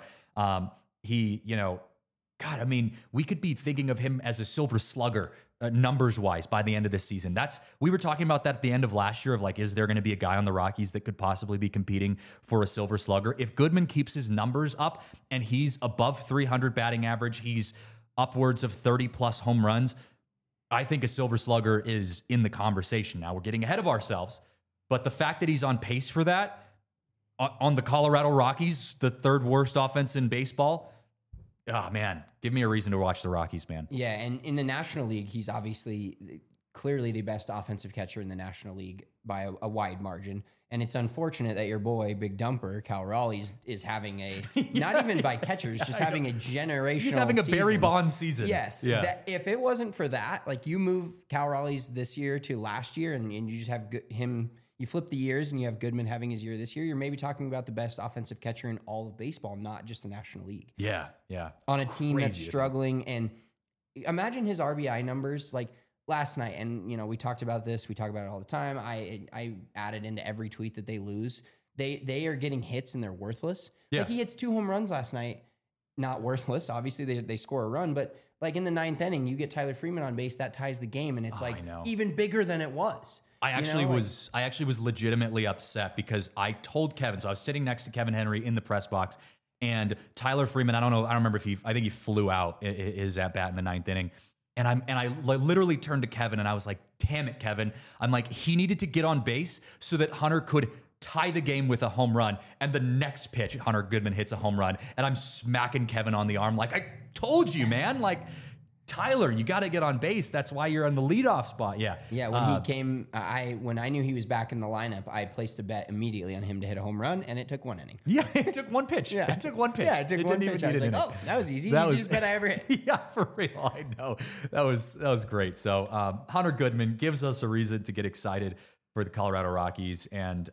God, I mean, we could be thinking of him as a silver slugger, numbers-wise, by the end of this season. We were talking about that at the end of last year of like, is there going to be a guy on the Rockies that could possibly be competing for a silver slugger? If Goodman keeps his numbers up and he's above 300 batting average, he's upwards of 30-plus home runs, I think a silver slugger is in the conversation. Now, we're getting ahead of ourselves, but the fact that he's on pace for that on the Colorado Rockies, the third worst offense in baseball, oh, man, give me a reason to watch the Rockies, man. Yeah, and in the National League, he's obviously clearly the best offensive catcher in the National League by a wide margin. And it's unfortunate that your boy, Big Dumper, Cal Raleigh, is having not even by catchers, just having a generational He's having a season. Barry Bonds season. Yes. Yeah. If it wasn't for that, like you move Cal Raleigh's this year to last year and you just have him, you flip the years and you have Goodman having his year this year, you're maybe talking about the best offensive catcher in all of baseball, not just the National League. Yeah. On a team that's struggling. And imagine his RBI numbers like last night. And, you know, we talked about this. We talk about it all the time. I added into every tweet that they lose. They are getting hits and they're worthless. Yeah. Like he hits 2 home runs last night. Not worthless. Obviously, they score a run. But like in the 9th inning, you get Tyler Freeman on base. That ties the game. And it's even bigger than it was. I actually was legitimately upset because I told Kevin, so I was sitting next to Kevin Henry in the press box, and Tyler Freeman, I don't remember if I think he flew out his at bat in the 9th inning. And I literally turned to Kevin and I was like, damn it, Kevin. I'm like, he needed to get on base so that Hunter could tie the game with a home run. And the next pitch, Hunter Goodman hits a home run. And I'm smacking Kevin on the arm like, I told you, man. Like, Tyler, you got to get on base. That's why you're on the leadoff spot. Yeah. Yeah. When he came, when I knew he was back in the lineup, I placed a bet immediately on him to hit a home run, and it took 1 inning. Yeah, it took 1 pitch. Yeah. It took 1 pitch. Yeah, it took 1 pitch. I was like, oh, that was easy. Easiest bet I ever hit. Yeah, for real. I know. That was great. So Hunter Goodman gives us a reason to get excited for the Colorado Rockies. And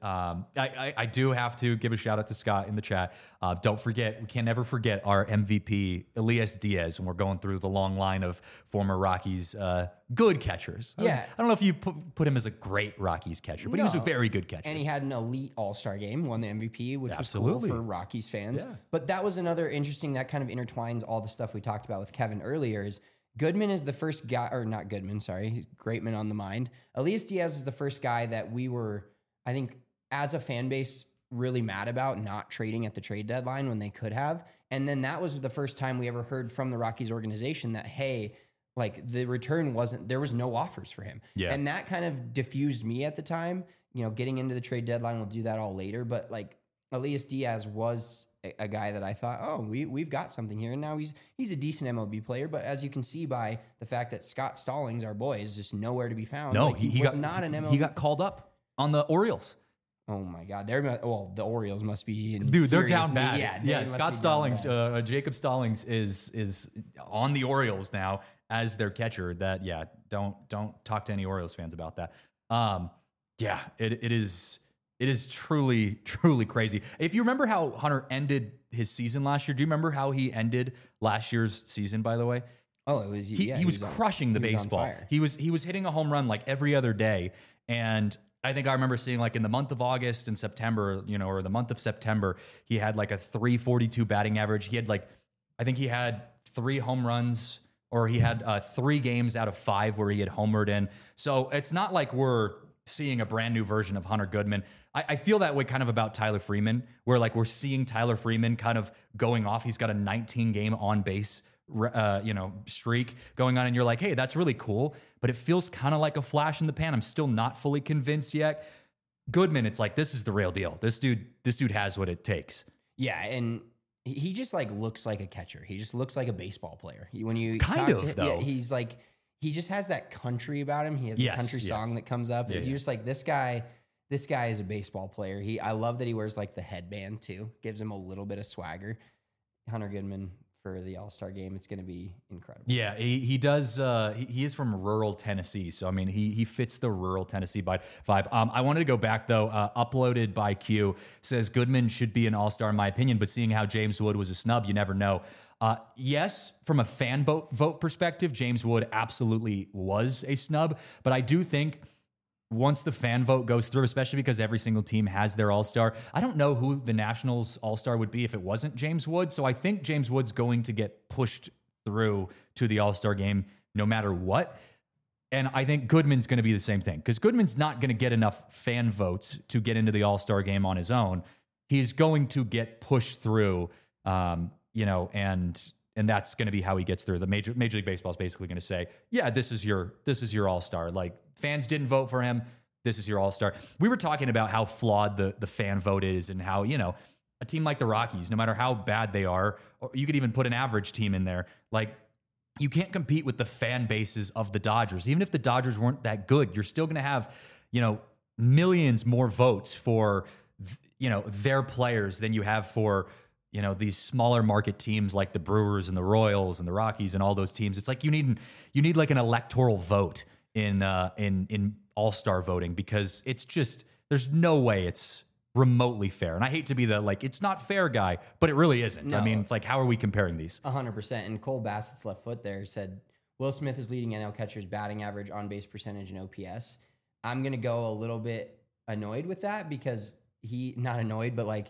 I do have to give a shout out to Scott in the chat. Don't forget, we can never forget our MVP, Elias Diaz, when we're going through the long line of former Rockies good catchers. Yeah. I don't know if you put him as a great Rockies catcher, but he was a very good catcher. And he had an elite all-star game, won the MVP, which Absolutely. was cool for Rockies fans. Yeah. But that was another interesting, that kind of intertwines all the stuff we talked about with Kevin earlier is Goodman is the first guy, or not Goodman, sorry, Greatman on the mind. Elias Diaz is the first guy that we were, I think, as a fan base, really mad about not trading at the trade deadline when they could have. And then that was the first time we ever heard from the Rockies organization that, hey, like the return there was no offers for him. Yeah. And that kind of diffused me at the time. You know, getting into the trade deadline, we'll do that all later. But like Elias Diaz was a guy that I thought, oh, we've got something here. And now he's a decent MLB player. But as you can see by the fact that Scott Stallings, our boy, is just nowhere to be found. No, like, he was not an MLB. He got called up on the Orioles. Oh my God! The Orioles must be in Dude, they're serious down bad. need. Yeah, Scott Stallings, Jacob Stallings is on the Orioles now as their catcher. That don't talk to any Orioles fans about that. Yeah, it is. It is truly, truly crazy. If you remember how Hunter ended his season last year, do you remember how he ended last year's season, by the way? Oh, it was He was crushing the baseball. He was hitting a home run like every other day. And I think I remember seeing like in the month of August and September, or the month of September, he had like a 342 batting average. He had I think he had 3 home runs, or he had 3 games out of 5 where he had homered in. So it's not like we're seeing a brand new version of Hunter Goodman. I feel that way kind of about Tyler Freeman, where like we're seeing Tyler Freeman kind of going off. He's got a 19 game on base streak going on, and you're like, hey, that's really cool, but it feels kind of like a flash in the pan. I'm still not fully convinced yet. Goodman, it's like, this is the real deal. This dude has what it takes. Yeah, and he just like looks like a catcher. He just looks like a baseball player. When you kind talk of to him, though, yeah, he's like, he just has that country about him. He has the country song that comes up. Yeah, You're just like, this guy is a baseball player. I love that he wears like the headband too. Gives him a little bit of swagger. Hunter Goodman for the All-Star game, it's going to be incredible. Yeah, he does. He is from rural Tennessee, so I mean, he fits the rural Tennessee vibe. I wanted to go back though. Uploaded by Q says Goodman should be an All-Star in my opinion, but seeing how James Wood was a snub, you never know. Yes, from a fan vote perspective, James Wood absolutely was a snub, but I do think once the fan vote goes through, especially because every single team has their all-star, I don't know who the Nationals all-star would be if it wasn't James Wood. So I think James Wood's going to get pushed through to the all-star game no matter what. And I think Goodman's going to be the same thing, because Goodman's not going to get enough fan votes to get into the all-star game on his own. He's going to get pushed through, and that's going to be how he gets through. The Major League Baseball is basically going to say, yeah, this is your all-star. Like, fans didn't vote for him. This is your all-star. We were talking about how flawed the fan vote is, and how, a team like the Rockies, no matter how bad they are, or you could even put an average team in there, like, you can't compete with the fan bases of the Dodgers. Even if the Dodgers weren't that good, you're still going to have, millions more votes for, their players than you have for, these smaller market teams like the Brewers and the Royals and the Rockies and all those teams. It's like you need like an electoral vote in all-star voting, because it's just, there's no way it's remotely fair. And I hate to be the it's not fair guy, but it really isn't. No. I mean, it's like, how are we comparing these? 100%. And Cole Bassett's left foot there said, Will Smith is leading NL catchers batting average, on base percentage, and OPS. I'm going to go a little bit annoyed with that, because not annoyed, but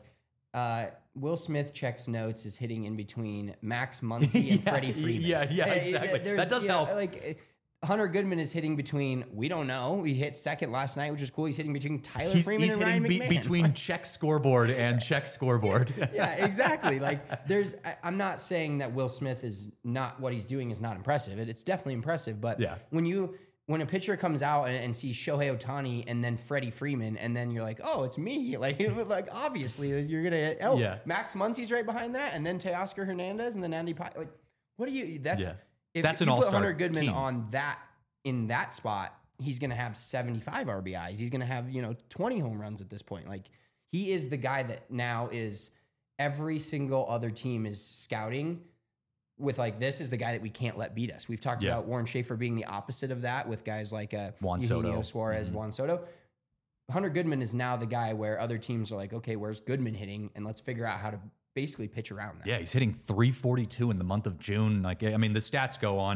Will Smith checks notes is hitting in between Max Muncy and Freddie Freeman. Yeah, exactly. That does help. Hunter Goodman is hitting between, we don't know. He hit second last night, which is cool. He's hitting between Tyler Freeman and Ryan McMahon. Between check scoreboard and check scoreboard. Yeah, exactly. I'm not saying that Will Smith is not, what he's doing is not impressive. It's definitely impressive. But when a pitcher comes out and sees Shohei Ohtani and then Freddie Freeman, and then you're like, oh, it's me. Obviously you're going to, Max Muncy's right behind that. And then Teoscar Hernandez and then Andy Pye. What do you, that's an all-star put Hunter Goodman team on that, in that spot, he's going to have 75 RBIs. He's going to have, 20 home runs at this point. He is the guy that now is every single other team is scouting with this is the guy that we can't let beat us. We've talked about Warren Schaefer being the opposite of that with guys like Juan Eugenio Soto. Suarez, Juan Soto. Hunter Goodman is now the guy where other teams are like, okay, where's Goodman hitting? And let's figure out how to basically pitch around that. Yeah, he's hitting 342 in the month of June. The stats go on.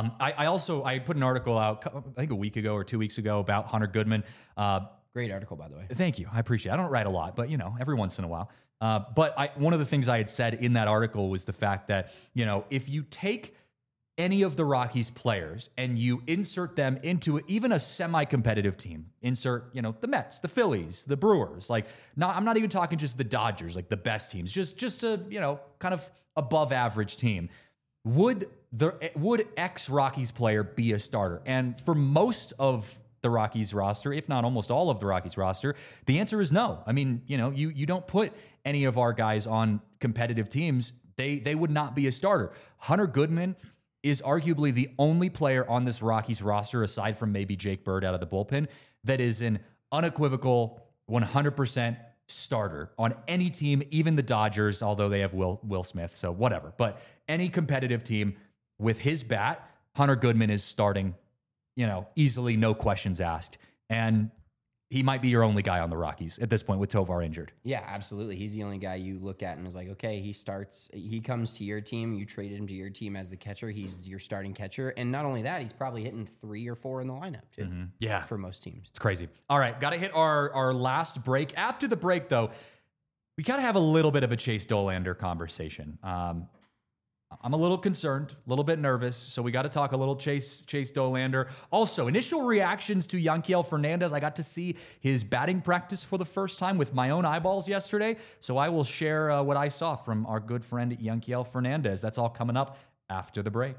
I put an article out, I think a week ago or 2 weeks ago, about Hunter Goodman. Great article, by the way. Thank you. I appreciate it. I don't write a lot, but every once in a while. But one of the things I had said in that article was the fact that, if you take any of the Rockies players and you insert them into even a semi-competitive team, insert, the Mets, the Phillies, the Brewers, I'm not even talking just the Dodgers, the best teams, just a, kind of above average team. Would ex-Rockies player be a starter? And for most of the Rockies roster, if not almost all of the Rockies roster, the answer is no. I mean, you don't put any of our guys on competitive teams. They would not be a starter. Hunter Goodman is arguably the only player on this Rockies roster, aside from maybe Jake Bird out of the bullpen, that is an unequivocal 100% starter on any team, even the Dodgers, although they have Will Smith, so whatever. But any competitive team with his bat, Hunter Goodman is starting, easily, no questions asked. And he might be your only guy on the Rockies at this point with Tovar injured. Yeah, absolutely. He's the only guy you look at and is like, okay, he comes to your team. You traded him to your team as the catcher. He's your starting catcher. And not only that, he's probably hitting 3 or 4 in the lineup too. Yeah. For most teams. It's crazy. All right, got to hit our last break. After the break, though, we got to have a little bit of a Chase Dollander conversation. I'm a little concerned, a little bit nervous, so we got to talk a little Chase Dollander. Also, initial reactions to Yanquiel Fernandez. I got to see his batting practice for the first time with my own eyeballs yesterday, so I will share what I saw from our good friend Yanquiel Fernandez. That's all coming up after the break.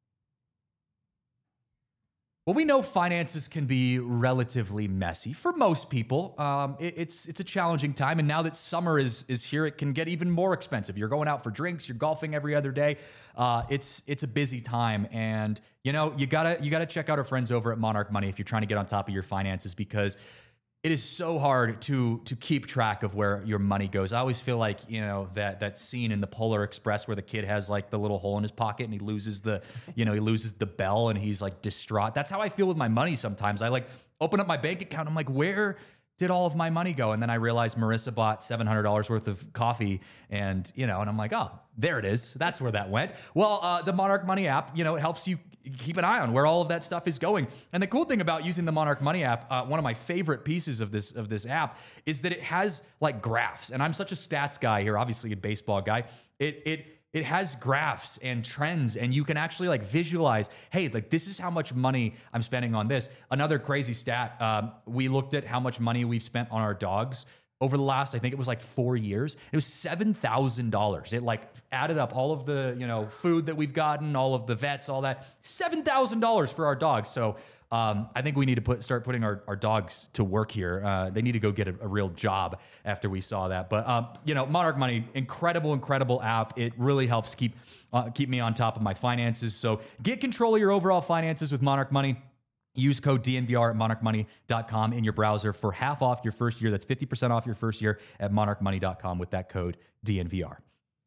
Well, we know finances can be relatively messy for most people. It's a challenging time, and now that summer is here, it can get even more expensive. You're going out for drinks, you're golfing every other day. It's a busy time, and you gotta check out our friends over at Monarch Money if you're trying to get on top of your finances, because it is so hard to keep track of where your money goes. I always feel like, that scene in the Polar Express where the kid has like the little hole in his pocket and he loses the bell and he's like distraught. That's how I feel with my money sometimes. I like open up my bank account. I'm like, where did all of my money go? And then I realized Marissa bought $700 worth of coffee and I'm like, oh, there it is. That's where that went. Well, the Monarch Money app, it helps you keep an eye on where all of that stuff is going. And the cool thing about using the Monarch Money app, one of my favorite pieces of this app is that it has like graphs. And I'm such a stats guy here, obviously a baseball guy. It has graphs and trends, and you can actually like visualize, hey, like this is how much money I'm spending on this. Another crazy stat, we looked at how much money we've spent on our dogs over the last, I think it was like 4 years. It was $7,000. It like added up all of the, food that we've gotten, all of the vets, all that, $7,000 for our dogs. So I think we need to start putting our dogs to work here. They need to go get a real job after we saw that. But, Monarch Money, incredible app. It really helps keep me on top of my finances. So get control of your overall finances with Monarch Money. Use code DNVR at monarchmoney.com in your browser for half off your first year. That's 50% off your first year at monarchmoney.com with that code DNVR.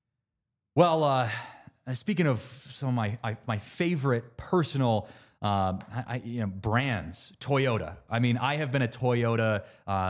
Well, speaking of some of my favorite personal brands, Toyota. I mean, I have been a Toyota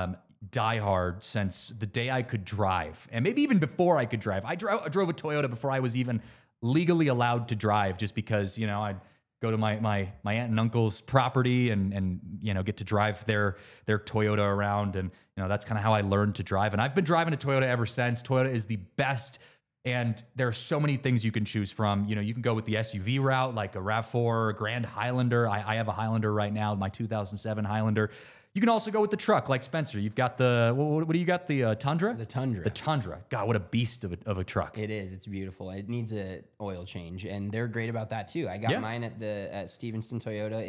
diehard since the day I could drive, and maybe even before I could drive. I drove a Toyota before I was even legally allowed to drive, just because I'd go to my aunt and uncle's property and get to drive their Toyota around, and that's kind of how I learned to drive. And I've been driving a Toyota ever since. Toyota is the best. And there are so many things you can choose from. You can go with the SUV route, like a RAV4, a Grand Highlander. I have a Highlander right now, my 2007 Highlander. You can also go with the truck, like Spencer. You've got what do you got? The Tundra? The Tundra. The Tundra. God, what a beast of a truck. It is. It's beautiful. It needs a oil change, and they're great about that too. I got mine at Stevenson Toyota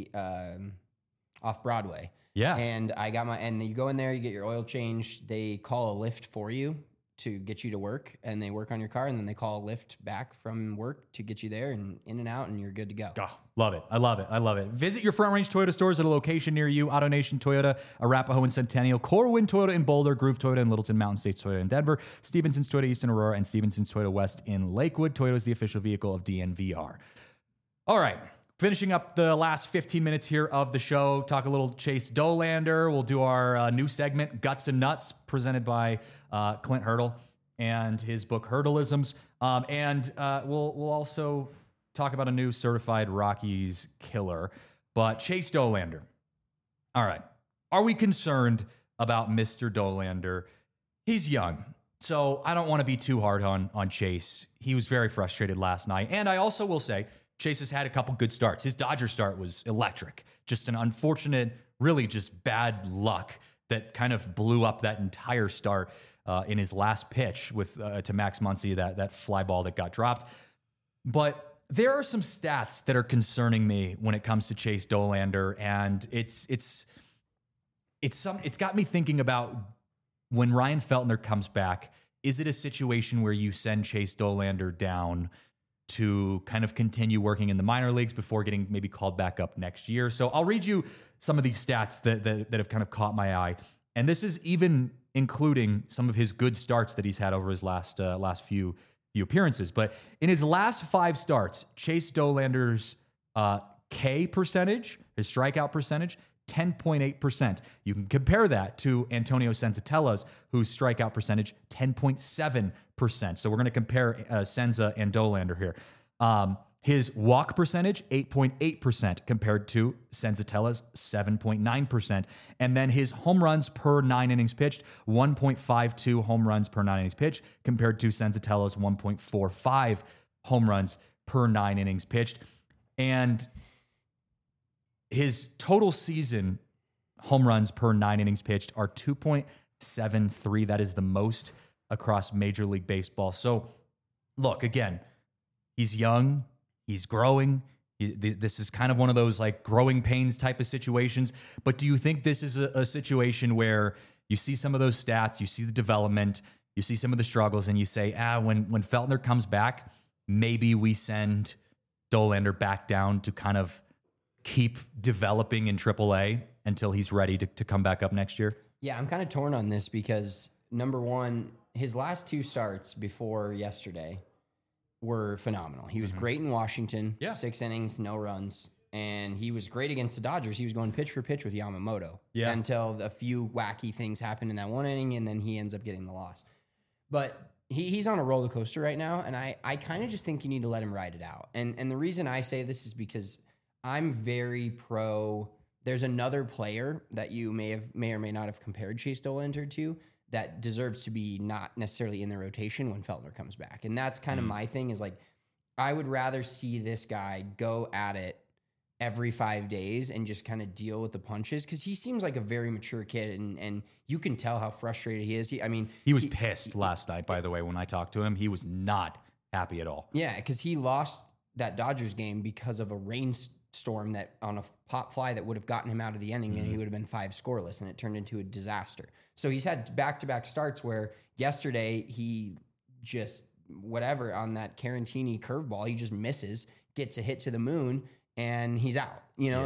in off Broadway. Yeah. And and you go in there, you get your oil change. They call a lift for you to get you to work, and they work on your car, and then they call a lift back from work to get you there and in and out, and you're good to go. Oh, love it. I love it. Visit your Front Range Toyota stores at a location near you. AutoNation Toyota, Arapahoe and Centennial, Corwin Toyota in Boulder, Groove Toyota in Littleton, Mountain States Toyota in Denver, Stevenson's Toyota East in Aurora, and Stevenson's Toyota West in Lakewood. Toyota is the official vehicle of DNVR. All right. Finishing up the last 15 minutes here of the show, talk a little Chase Dollander. We'll do our new segment, Guts and Nuts, presented by Clint Hurdle and his book Hurdleisms. And we'll also talk about a new Certified Rockies killer. But Chase Dollander. All right. Are we concerned about Mr. Dollander? He's young, so I don't want to be too hard on Chase. He was very frustrated last night. And I also will say, Chase has had a couple good starts. His Dodger start was electric. Just an unfortunate, really just bad luck that kind of blew up that entire start in his last pitch to Max Muncy, that fly ball that got dropped. But there are some stats that are concerning me when it comes to Chase Dollander, and it's got me thinking about when Ryan Feltner comes back. Is it a situation where you send Chase Dollander down to kind of continue working in the minor leagues before getting maybe called back up next year? So I'll read you some of these stats that have kind of caught my eye. And this is even including some of his good starts that he's had over his last few appearances. But in his last 5 starts, Chase Dollander's K percentage, his strikeout percentage, 10.8%. You can compare that to Antonio Senzatella's, whose strikeout percentage, 10.7%. So we're going to compare Senza and Dollander here. His walk percentage, 8.8% compared to Senzatella's 7.9%. And then his home runs per 9 innings pitched, 1.52 home runs per 9 innings pitched compared to Senzatella's 1.45 home runs per 9 innings pitched. And his total season home runs per 9 innings pitched are 2.73. That is the most across Major League Baseball. So look, again, he's young. He's growing. This is kind of one of those like growing pains type of situations. But do you think this is a situation where you see some of those stats, you see the development, you see some of the struggles, and you say, when Feltner comes back, maybe we send Dollander back down to kind of keep developing in AAA until he's ready to come back up next year? Yeah, I'm kind of torn on this because, number one, his last 2 starts before yesterday were phenomenal. He was great in Washington, 6 innings, no runs, and he was great against the Dodgers. He was going pitch for pitch with Yamamoto until a few wacky things happened in that 1 inning, and then he ends up getting the loss. But he's on a roller coaster right now, and I kind of just think you need to let him ride it out. And the reason I say this is because I'm very pro. There's another player that you may or may not have compared Chase Dollander to that deserves to be not necessarily in the rotation when Feltner comes back. And that's kind of my thing is like, I would rather see this guy go at it every 5 days and just kind of deal with the punches. Cause he seems like a very mature kid and you can tell how frustrated he is. He was pissed last night, by the way, when I talked to him. He was not happy at all. Yeah. Cause he lost that Dodgers game because of a rainstorm that on a pop fly that would have gotten him out of the inning and he would have been 5 scoreless and it turned into a disaster. So he's had back-to-back starts where yesterday he just, whatever, on that Carantini curveball, he just misses, gets a hit to the moon, and he's out.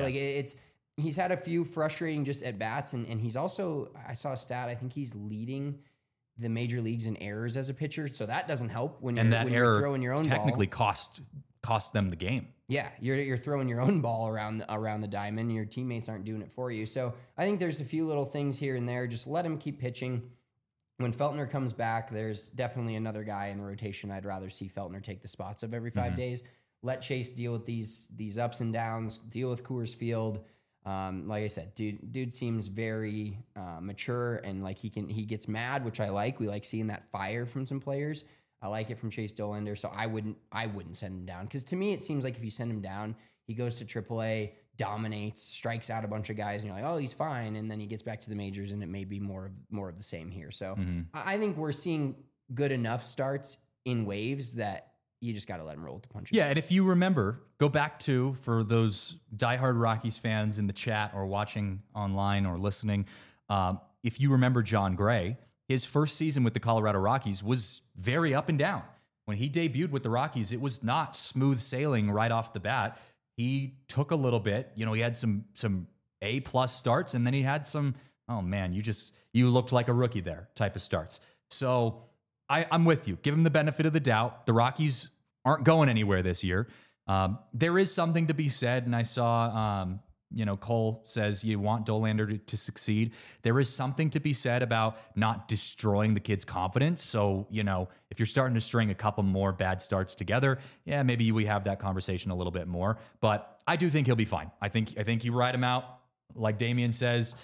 He's had a few frustrating just at-bats, and he's also, I saw a stat, I think he's leading the major leagues in errors as a pitcher, so that doesn't help when you're throwing your own technically ball. cost them the game. Yeah, you're throwing your own ball around the diamond. Your teammates aren't doing it for you. So I think there's a few little things here and there. Just let him keep pitching. When Feltner comes back, there's definitely another guy in the rotation. I'd rather see Feltner take the spots of every 5 days. Let Chase deal with these ups and downs. Deal with Coors Field. Like I said, dude seems very mature and like he gets mad, which I like. We like seeing that fire from some players. I like it from Chase Dollander, so I wouldn't send him down. Because to me, it seems like if you send him down, he goes to AAA, dominates, strikes out a bunch of guys, and you're like, oh, he's fine. And then he gets back to the majors, and it may be more of the same here. So I think we're seeing good enough starts in waves that you just got to let him roll with the punches. Yeah, and if you remember, go back to, for those diehard Rockies fans in the chat or watching online or listening, if you remember John Gray, his first season with the Colorado Rockies was very up and down. When he debuted with the Rockies, it was not smooth sailing right off the bat. He took a little bit. He had some A+ starts, and then he had some, oh man, you looked like a rookie there type of starts. So I'm with you. Give him the benefit of the doubt. The Rockies aren't going anywhere this year. There is something to be said, and I saw Cole says you want Dollander to succeed. There is something to be said about not destroying the kid's confidence. So, if you're starting to string a couple more bad starts together, yeah, maybe we have that conversation a little bit more. But I do think he'll be fine. I think you ride him out. Like Damian says,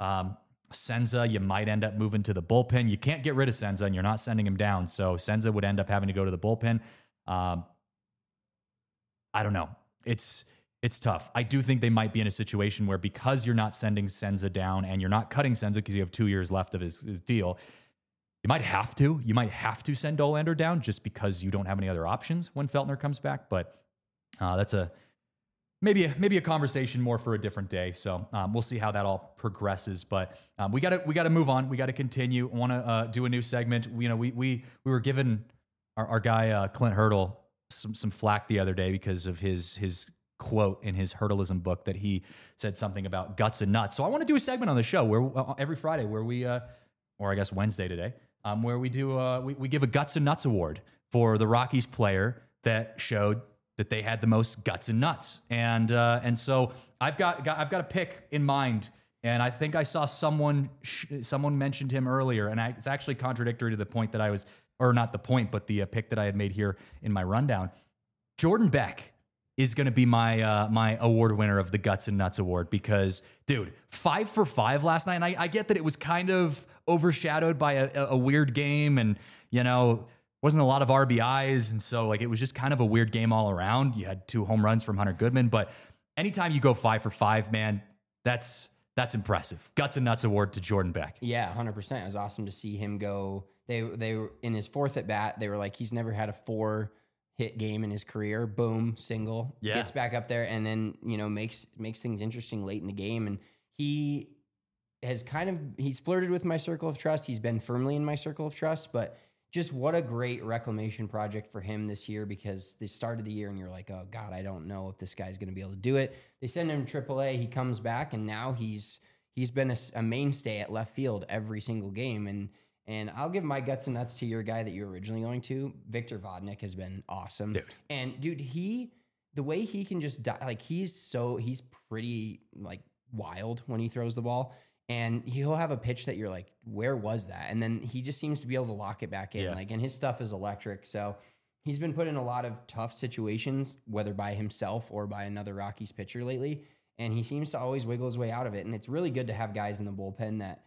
Senza, you might end up moving to the bullpen. You can't get rid of Senza, and you're not sending him down. So Senza would end up having to go to the bullpen. I don't know. It's tough. I do think they might be in a situation where because you're not sending Senza down and you're not cutting Senza because you have 2 years left of his deal, you might have to. You might have to send Dollander down just because you don't have any other options when Feltner comes back. But that's maybe a conversation more for a different day. So we'll see how that all progresses. But we gotta move on. We gotta continue. I want to do a new segment. We were given our guy Clint Hurdle some flack the other day because of his quote in his hurdleism book that he said something about guts and nuts. So I want to do a segment on the show where every Friday where we, or I guess Wednesday today, where we do we give a guts and nuts award for the Rockies player that showed that they had the most guts and nuts. And so I've got a pick in mind, and I think I saw someone mentioned him earlier, and it's actually contradictory to the point that I was, or not the point, but the pick that I had made here in my rundown. Jordan Beck is going to be my my award winner of the Guts and Nuts Award because, dude, 5 for 5 last night. And I get that it was kind of overshadowed by a weird game, and wasn't a lot of RBIs, and so like it was just kind of a weird game all around. You had 2 home runs from Hunter Goodman, but anytime you go 5 for 5, man, that's impressive. Guts and Nuts Award to Jordan Beck. Yeah, 100%. It was awesome to see him go. They were in his 4th at bat. They were like, he's never had a 4-hit game in his career. Boom, single. Yeah. Gets back up there and then, makes things interesting late in the game. And he has he's flirted with my circle of trust. He's been firmly in my circle of trust, but just what a great reclamation project for him this year, because they started the year and you're like, oh God, I don't know if this guy's going to be able to do it. They send him to AAA. He comes back and now he's been a mainstay at left field every single game. And I'll give my guts and nuts to your guy that you were originally going to. Victor Vodnik has been awesome. Dude. And dude, the way he can just like, he's pretty like wild when he throws the ball. And he'll have a pitch that you're like, where was that? And then he just seems to be able to lock it back in. Yeah. And his stuff is electric. So he's been put in a lot of tough situations, whether by himself or by another Rockies pitcher lately. And he seems to always wiggle his way out of it. And it's really good to have guys in the bullpen that,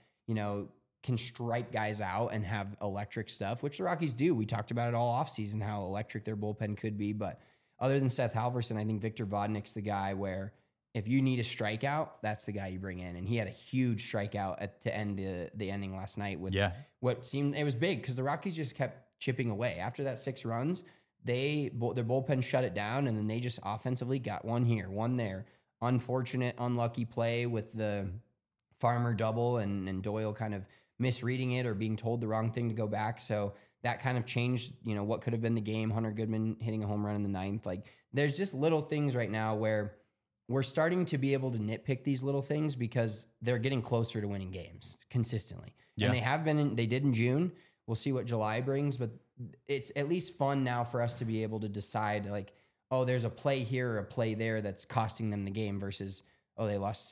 can strike guys out and have electric stuff, which the Rockies do. We talked about it all offseason, how electric their bullpen could be. But other than Seth Halverson, I think Victor Vodnik's the guy where if you need a strikeout, that's the guy you bring in. And he had a huge strikeout to end the ending last night with what seemed, it was big because the Rockies just kept chipping away. After that 6 runs, their bullpen shut it down, and then they just offensively got one here, one there. Unfortunate, unlucky play with the Farmer double and Doyle kind of misreading it or being told the wrong thing to go back. So that kind of changed, what could have been the game. Hunter Goodman hitting a home run in the 9th. Like, there's just little things right now where we're starting to be able to nitpick these little things because they're getting closer to winning games consistently. Yeah. And they have been, they did in June. We'll see what July brings, but it's at least fun now for us to be able to decide like, oh, there's a play here or a play there that's costing them the game versus, oh, they lost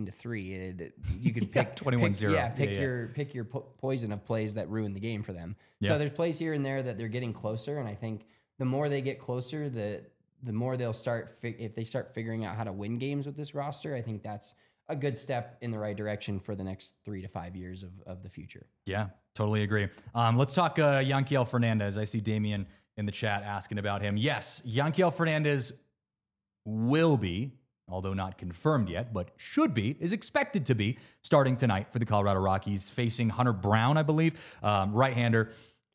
17-3. You could pick 21-0. Pick your poison of plays that ruin the game for them. Yeah. So there's plays here and there that they're getting closer. And I think the more they get closer, the more they'll start, if they start figuring out how to win games with this roster, I think that's a good step in the right direction for the next 3 to 5 years of the future. Yeah, totally agree. Let's talk Yanquiel Fernandez. I see Damian in the chat asking about him. Yes, Yanquiel Fernandez will be, although not confirmed yet, but should be, is expected to be starting tonight for the Colorado Rockies, facing Hunter Brown, I believe, right-hander.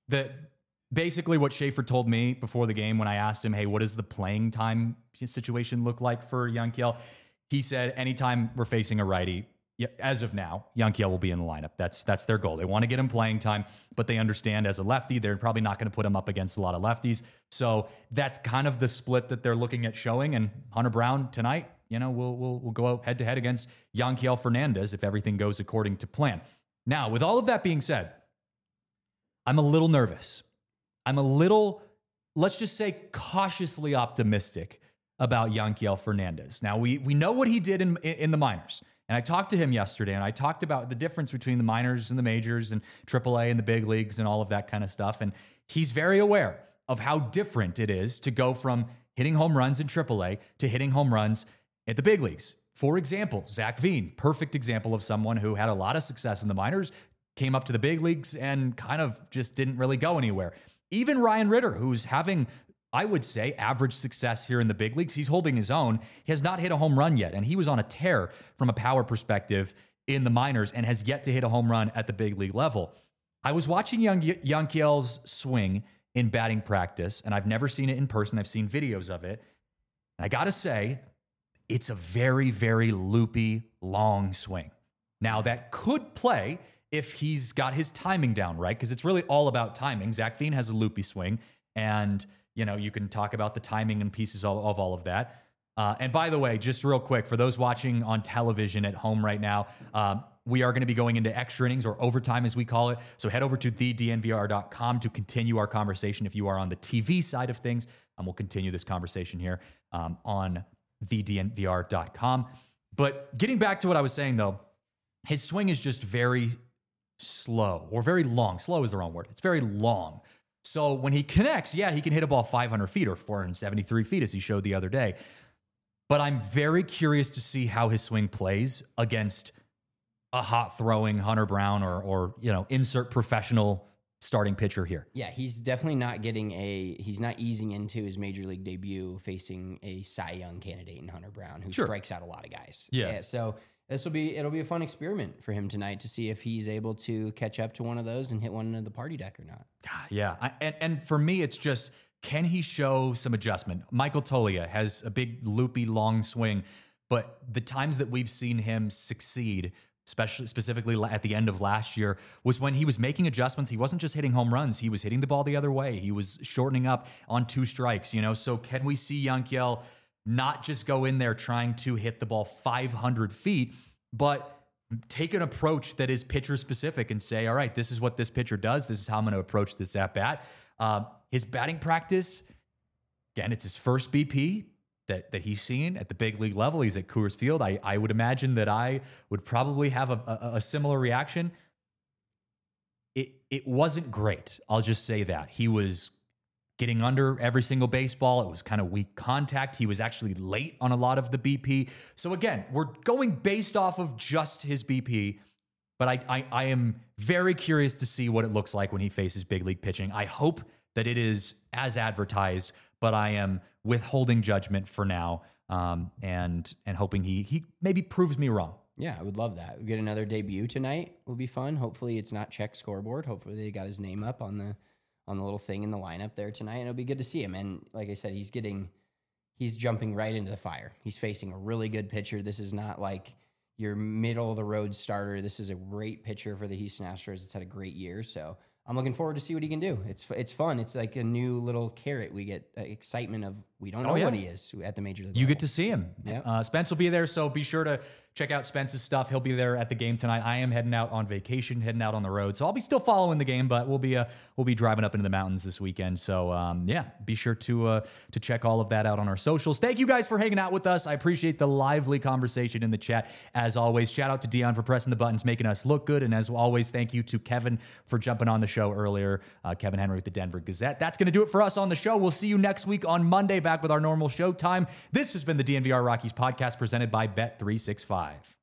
Basically what Schaefer told me before the game when I asked him, hey, what does the playing time situation look like for Yanquiel? He said, anytime we're facing a righty, as of now, Yanquiel will be in the lineup. That's their goal. They want to get him playing time, but they understand as a lefty, they're probably not going to put him up against a lot of lefties. So that's kind of the split that they're looking at showing. And Hunter Brown tonight, we'll go out head to head against Yanquiel Fernandez if everything goes according to plan. Now, with all of that being said, I'm a little nervous. I'm a little, let's just say, cautiously optimistic about Yanquiel Fernandez. Now, we know what he did in the minors. And I talked to him yesterday, and I talked about the difference between the minors and the majors and AAA and the big leagues and all of that kind of stuff. And he's very aware of how different it is to go from hitting home runs in AAA to hitting home runs at the big leagues. For example, Zach Veen, perfect example of someone who had a lot of success in the minors, came up to the big leagues and kind of just didn't really go anywhere. Even Ryan Ritter, who's having, I would say, average success here in the big leagues. He's holding his own. He has not hit a home run yet, and he was on a tear from a power perspective in the minors and has yet to hit a home run at the big league level. I was watching Yanquiel's swing in batting practice, and I've never seen it in person. I've seen videos of it. And I got to say, it's a very, very loopy, long swing. Now, that could play if he's got his timing down right, because it's really all about timing. Zach Veen has a loopy swing, and you can talk about the timing and pieces of all of that. And by the way, just real quick, for those watching on television at home right now, we are going to be going into extra innings or overtime, as we call it. So head over to thednvr.com to continue our conversation if you are on the TV side of things. And we'll continue this conversation here on thednvr.com. But getting back to what I was saying, though, his swing is just very slow or very long. Slow is the wrong word. It's very long. So when he connects, yeah, he can hit a ball 500 feet or 473 feet, as he showed the other day. But I'm very curious to see how his swing plays against a hot throwing Hunter Brown or insert professional starting pitcher here. Yeah, he's definitely not he's not easing into his major league debut facing a Cy Young candidate in Hunter Brown, who strikes out a lot of guys. Yeah. So it'll be a fun experiment for him tonight to see if he's able to catch up to one of those and hit one into the party deck or not. God, yeah. And for me, it's just, can he show some adjustment? Michael Toglia has a big loopy long swing, but the times that we've seen him succeed, specifically at the end of last year, was when he was making adjustments. He wasn't just hitting home runs. He was hitting the ball the other way. He was shortening up on 2 strikes, So can we see Yanquiel not just go in there trying to hit the ball 500 feet, but take an approach that is pitcher specific and say, all right, this is what this pitcher does. This is how I'm going to approach this at bat. His batting practice, again, it's his first BP that he's seen at the big league level. He's at Coors Field. I would imagine that I would probably have a similar reaction. It wasn't great. I'll just say that. He was getting under every single baseball. It was kind of weak contact. He was actually late on a lot of the BP. So again, we're going based off of just his BP, but I am very curious to see what it looks like when he faces big league pitching. I hope that it is as advertised, but I am withholding judgment for now, and hoping he maybe proves me wrong. Yeah, I would love that. We get another debut tonight. Will be fun. Hopefully it's not check scoreboard. Hopefully they got his name up on the little thing in the lineup there tonight, and it'll be good to see him. And like I said, he's jumping right into the fire. He's facing a really good pitcher. This is not like your middle of the road starter. This is a great pitcher for the Houston Astros. It's had a great year, so I'm looking forward to see what he can do. It's fun. It's like a new little carrot. We get excitement of, we don't know what he is at the major league level. Get to see him. Yeah. Spence will be there, so be sure to check out Spence's stuff. He'll be there at the game tonight. I am heading out on vacation, heading out on the road, so I'll be still following the game, but we'll be driving up into the mountains this weekend. So be sure to check all of that out on our socials. Thank you guys for hanging out with us. I appreciate the lively conversation in the chat. As always, shout out to Dion for pressing the buttons, making us look good, and as always, thank you to Kevin for jumping on the show earlier. Kevin Henry with the Denver Gazette. That's going to do it for us on the show. We'll see you next week on Monday, back with our normal show time. This has been the DNVR Rockies podcast presented by Bet365.